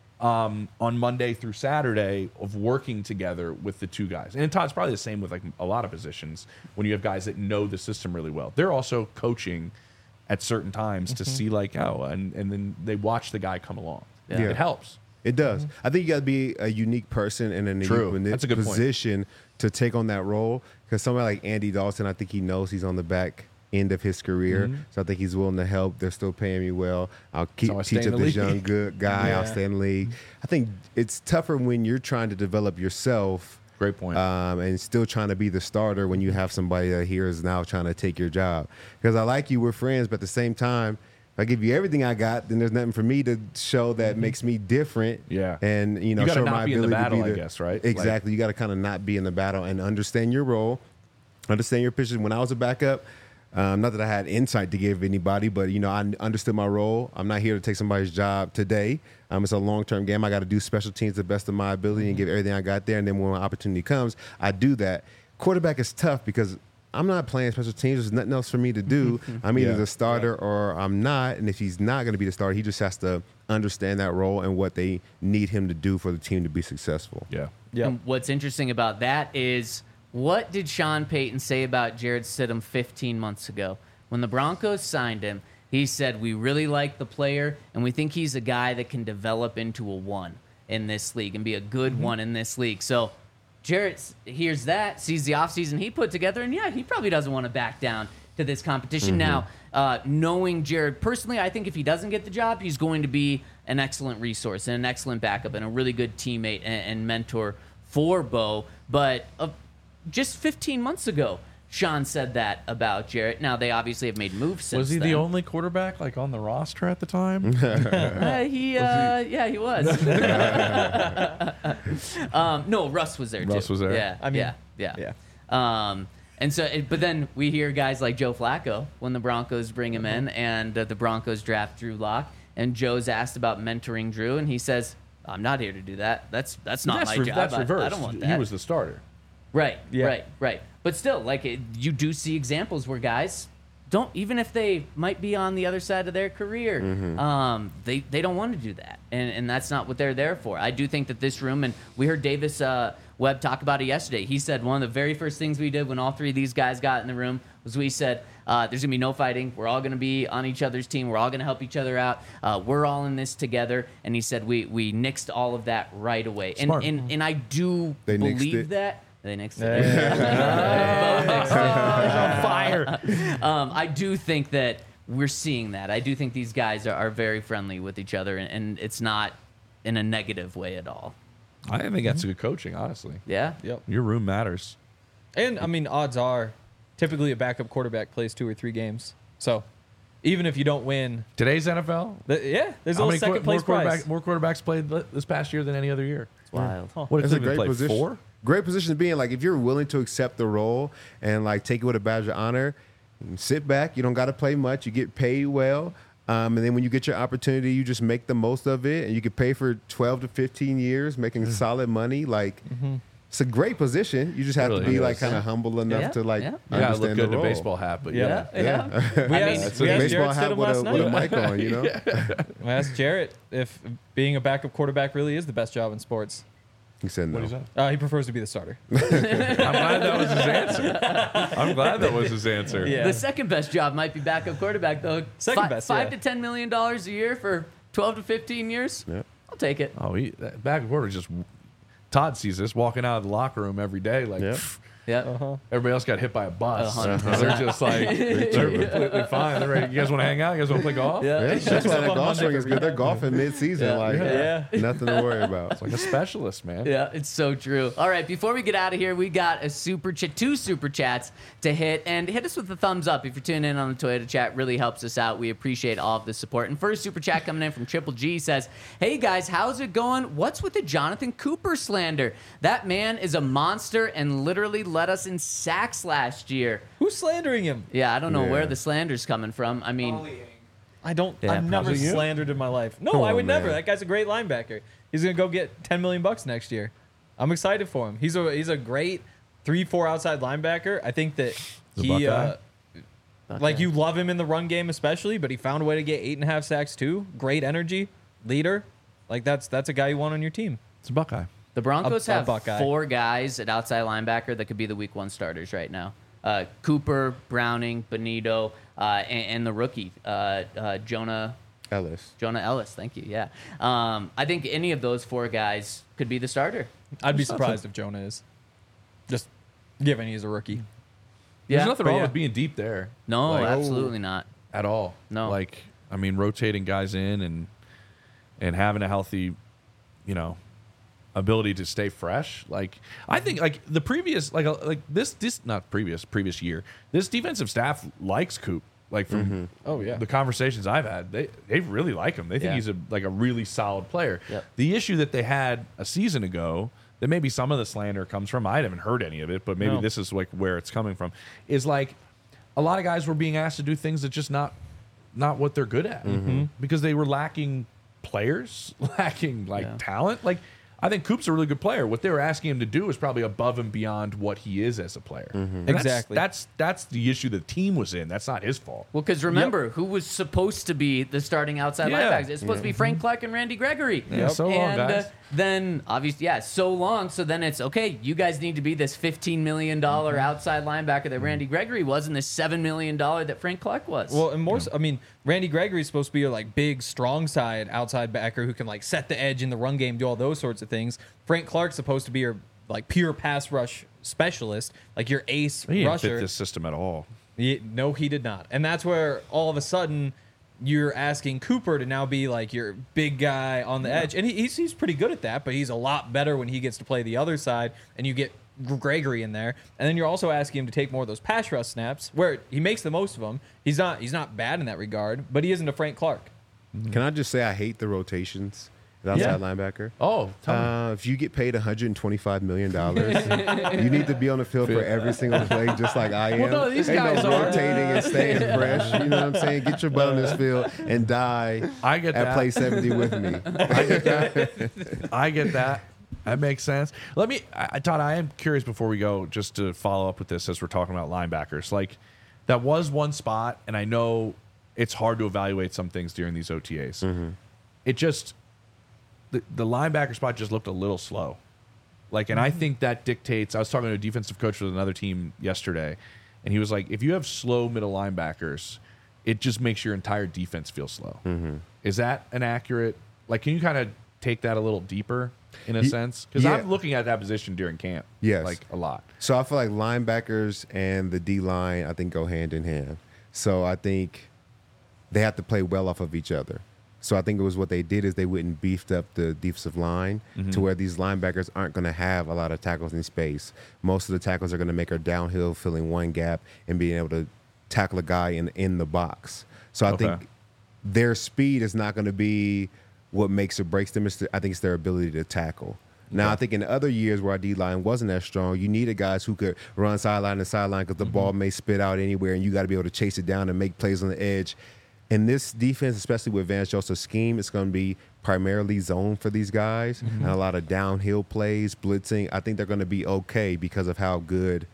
on Monday through Saturday of working together with the two guys. And Todd's probably the same with, like, a lot of positions when you have guys that know the system really well. They're also coaching at certain times to see, like, and then they watch the guy come along. Yeah. It helps. It does. I think you got to be a unique person and in a unique That's a good position to take on that role. Because somebody like Andy Dalton, I think he knows he's on the back end of his career. So I think he's willing to help. They're still paying me well. I'll keep teach up this young good guy. I'll stay in the league. I think it's tougher when you're trying to develop yourself. Great point. And still trying to be the starter when you have somebody that here is now trying to take your job. Because I like you, we're friends, but at the same time, if I give you everything I got, then there's nothing for me to show that makes me different. Yeah. And, you gotta show not my be in the ability battle, to be I guess, right? Exactly. You got to kind of not be in the battle and understand your role, understand your position. When I was a backup, not that I had insight to give anybody, but, I understood my role. I'm not here to take somebody's job today. It's a long-term game. I got to do special teams to the best of my ability and give everything I got there. And then when my opportunity comes, I do that. Quarterback is tough because I'm not playing special teams. There's nothing else for me to do. I'm either the starter or I'm not. And if he's not going to be the starter, he just has to understand that role and what they need him to do for the team to be successful. Yeah. And what's interesting about that is, what did Sean Payton say about Jarrett Stidham 15 months ago? When the Broncos signed him, he said, we really like the player, and we think he's a guy that can develop into a one in this league and be a good one in this league. So Jarrett hears that, sees the offseason he put together, and he probably doesn't want to back down to this competition. Now, knowing Jarrett personally, I think if he doesn't get the job, he's going to be an excellent resource and an excellent backup and a really good teammate and mentor for Bo. But just 15 months ago, Sean said that about Jarrett. Now, they obviously have made moves since Was he then. the only quarterback, like, on the roster at the time? He was. No, Russ was there too. Russ was there? Yeah, I mean, yeah. And so, but then we hear guys like Joe Flacco when the Broncos bring him in, and the Broncos draft Drew Lock. And Joe's asked about mentoring Drew, and he saes, "I'm not here to do that. That's not my job. That's reversed. I don't want that." He was the starter. Right, Yeah. right. But still, like, you do see examples where guys don't, even if they might be on the other side of their career, they don't want to do that. And that's not what they're there for. I do think that this room, and we heard Davis Webb talk about it yesterday. He said one of the very first things we did when all three of these guys got in the room was we said, there's going to be no fighting. We're all going to be on each other's team. We're all going to help each other out. We're all in this together. And he said we nixed all of that right away. Smart. And I do They nixed believe it? that. They nixed it. Bo nixed it. on fire. I do think that we're seeing that. I do think these guys are very friendly with each other, and it's not in a negative way at all. I think that's good coaching, honestly. Yeah. Yep. Your room matters. And I mean, odds are, typically a backup quarterback plays 2 or 3 games. So even if you don't win, Today's NFL, there's a how little many second place prize. more quarterbacks played this past year than any other year? It's wild. What did It's a Cleveland great play? position. 4? Great position to be in. Like if you're willing to accept the role and like take it with a badge of honor, sit back. You don't got to play much. You get paid well. And then when you get your opportunity, you just make the most of it. And you can pay for 12 to 15 years, making solid money. Like it's a great position. You just have Really to be is. like kind of humble enough Yeah, to like yeah. You gotta understand look good the in a role. baseball hat, but Yeah. Yeah. We I asked, mean, we It's asked a Jarrett baseball hat Stidham with last a night. mic on, you know? I asked Jarrett if being a backup quarterback really is the best job in sports. He said no. What is that? He prefers to be the starter. I'm glad that was his answer. I'm glad that was his answer. Yeah. The second best job might be backup quarterback, though. Second best, $5 yeah. to $10 million a year for 12 to 15 years. Yeah. I'll take it. Oh, that back and forth is just. Todd sees this walking out of the locker room every day, like Yeah. pff, Yeah. everybody else got hit by a bus. 100%. They're just like they're completely fine. They're ready. You guys want to hang out? You guys want to play golf? Yeah. Yeah, that's why up that on golf Monday swing is for good. They're rehab. golfing mid-season. Yeah. Like, Yeah. nothing to worry about. Like a specialist, man. Yeah, it's so true. All right, before we get out of here, we got a two super chats to hit, and hit us with a thumbs up if you're tuning in on the Toyota chat. Really helps us out. We appreciate all of the support. And first super chat coming in from Triple G says, "Hey guys, how's it going? What's with the Jonathan Cooper slander? That man is a monster and literally led us in sacks last year." Who's slandering him? Yeah, I don't know Yeah. where the slander's coming from. I mean, I don't. Yeah, I've never probably you. slandered in my life. No, Come I on, would never. man. That guy's a great linebacker. He's gonna go get $10 million next year. I'm excited for him. He's a great 3-4 outside linebacker. I think that The he Buckeye? like you love him in the run game especially, but he found a way to get 8.5 sacks too. Great energy, leader. Like that's a guy you want on your team. It's a Buckeye. the Broncos A have Buckeye. 4 guys at outside linebacker that could be the week 1 starters right now. Cooper, Browning, Benito, and the rookie, Jonah Ellis. Thank you. Yeah. I think any of those 4 guys could be the starter. I'd be surprised if Jonah is. Just given he's a rookie. Yeah. There's nothing but wrong yeah. with being deep there. No, Like, absolutely not. at all. No. Like, I mean, rotating guys in and having a healthy, ability to stay fresh. Like, I think like the previous, previous year, this defensive staff likes Coop. Like from Oh, yeah. the conversations I've had, they really like him. They think Yeah. he's a really solid player. Yep. The issue that they had a season ago, that maybe some of the slander comes from, I haven't heard any of it, but maybe No. this is like where it's coming from, is like a lot of guys were being asked to do things that just not what they're good at because they were lacking players, lacking Yeah. talent. Like, I think Coop's a really good player. What they were asking him to do is probably above and beyond what he is as a player. And Exactly. That's the issue the team was in. That's not his fault. Well, because remember, who was supposed to be the starting outside Yeah. linebackers? It's supposed to be Frank Clark and Randy Gregory. Yeah, so long, and guys. then, obviously, so long. So then it's, okay, you guys need to be this $15 million outside linebacker that Randy Gregory was and this $7 million that Frank Clark was. Well, and more, I mean, Randy Gregory's supposed to be a like big, strong side outside backer who can like set the edge in the run game, do all those sorts of things. Frank Clark's supposed to be your like pure pass rush specialist, like your ace He didn't rusher. fit this system at all. No, he did not. And that's where all of a sudden you're asking Cooper to now be like your big guy on the edge. And he's pretty good at that, but he's a lot better when he gets to play the other side and you get Gregory in there. And then you're also asking him to take more of those pass rush snaps where he makes the most of them. He's not bad in that regard, but he isn't a Frank Clark. Can I just say I hate the rotations at outside linebacker? Oh, tell me. If you get paid $125 million, you need to be on the field for every single play, just like I am. Well, no, these Ain't guys no are. rotating and staying fresh. You know what I'm saying? Get your butt on this field and die I get at that. play 70 with me. I get that. That makes sense. Todd, I am curious before we go, just to follow up with this as we're talking about linebackers. Like, that was one spot, and I know it's hard to evaluate some things during these OTAs. It just, the linebacker spot just looked a little slow. Like, and I think that dictates, I was talking to a defensive coach with another team yesterday, and he was like, if you have slow middle linebackers, it just makes your entire defense feel slow. Is that an accurate, like, can you kind of take that a little deeper in a sense? Because yeah. I'm looking at that position during camp. Yes. Like, a lot. So I feel like linebackers and the D line, I think, go hand in hand. So I think they have to play well off of each other. So I think it was what they did is they went and beefed up the defensive line to where these linebackers aren't going to have a lot of tackles in space. Most of the tackles are going to make her downhill, filling one gap and being able to tackle a guy in the box. So I think their speed is not going to be what makes or breaks them. I think it's their ability to tackle. Now, I think in other years where our D-line wasn't as strong, you needed guys who could run sideline to sideline because the ball may spit out anywhere, and you got to be able to chase it down and make plays on the edge. In this defense, especially with Vance Joseph's scheme, it's going to be primarily zone for these guys and a lot of downhill plays, blitzing. I think they're going to be okay because of how good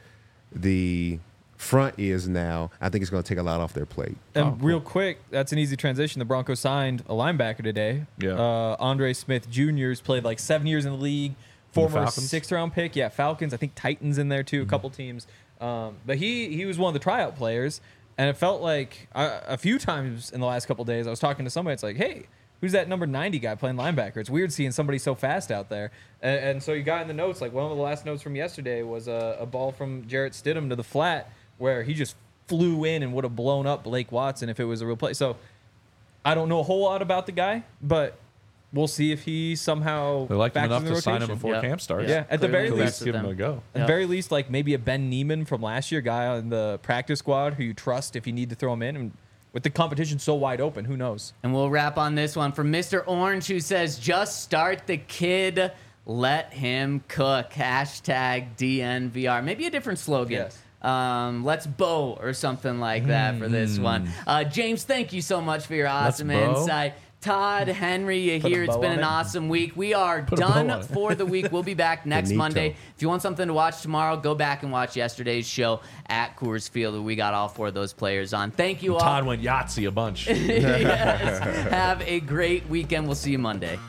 the front is now. I think it's going to take a lot off their plate. And real quick, that's an easy transition. The Broncos signed a linebacker today. Yeah. Andre Smith Jr.'s played like 7 years in the league. Former 6th-round pick. Yeah, Falcons. I think Titans in there too, a couple teams. But he was one of the tryout players. And it felt like a few times in the last couple of days, I was talking to somebody. It's like, hey, who's that number 90 guy playing linebacker? It's weird seeing somebody so fast out there. And so you got in the notes, like one of the last notes from yesterday was a ball from Jarrett Stidham to the flat where he just flew in and would have blown up Blake Watson if it was a real play. So I don't know a whole lot about the guy, but we'll see if he somehow They liked him factors enough in the to sign him rotation. before camp starts. Yeah, at the very Clearly least, Give him a go. at the very least, like maybe a Ben Neiman from last year, guy on the practice squad who you trust if you need to throw him in. And with the competition so wide open, who knows? And we'll wrap on this one from Mr. Orange, who says, just start the kid, let him cook. Hashtag DNVR. Maybe a different slogan. Yes. Let's bow or something like that for this one. James, thank you so much for your awesome bow. insight. Todd, Henry, you Put a here. It's bow been on an it. awesome week. We are a bow done on it. for the week. We'll be back next Benito. Monday. If you want something to watch tomorrow, go back and watch yesterday's show at Coors Field. We got all 4 of those players on. Thank you all. Todd went Yahtzee a bunch. Yes. Have a great weekend. We'll see you Monday.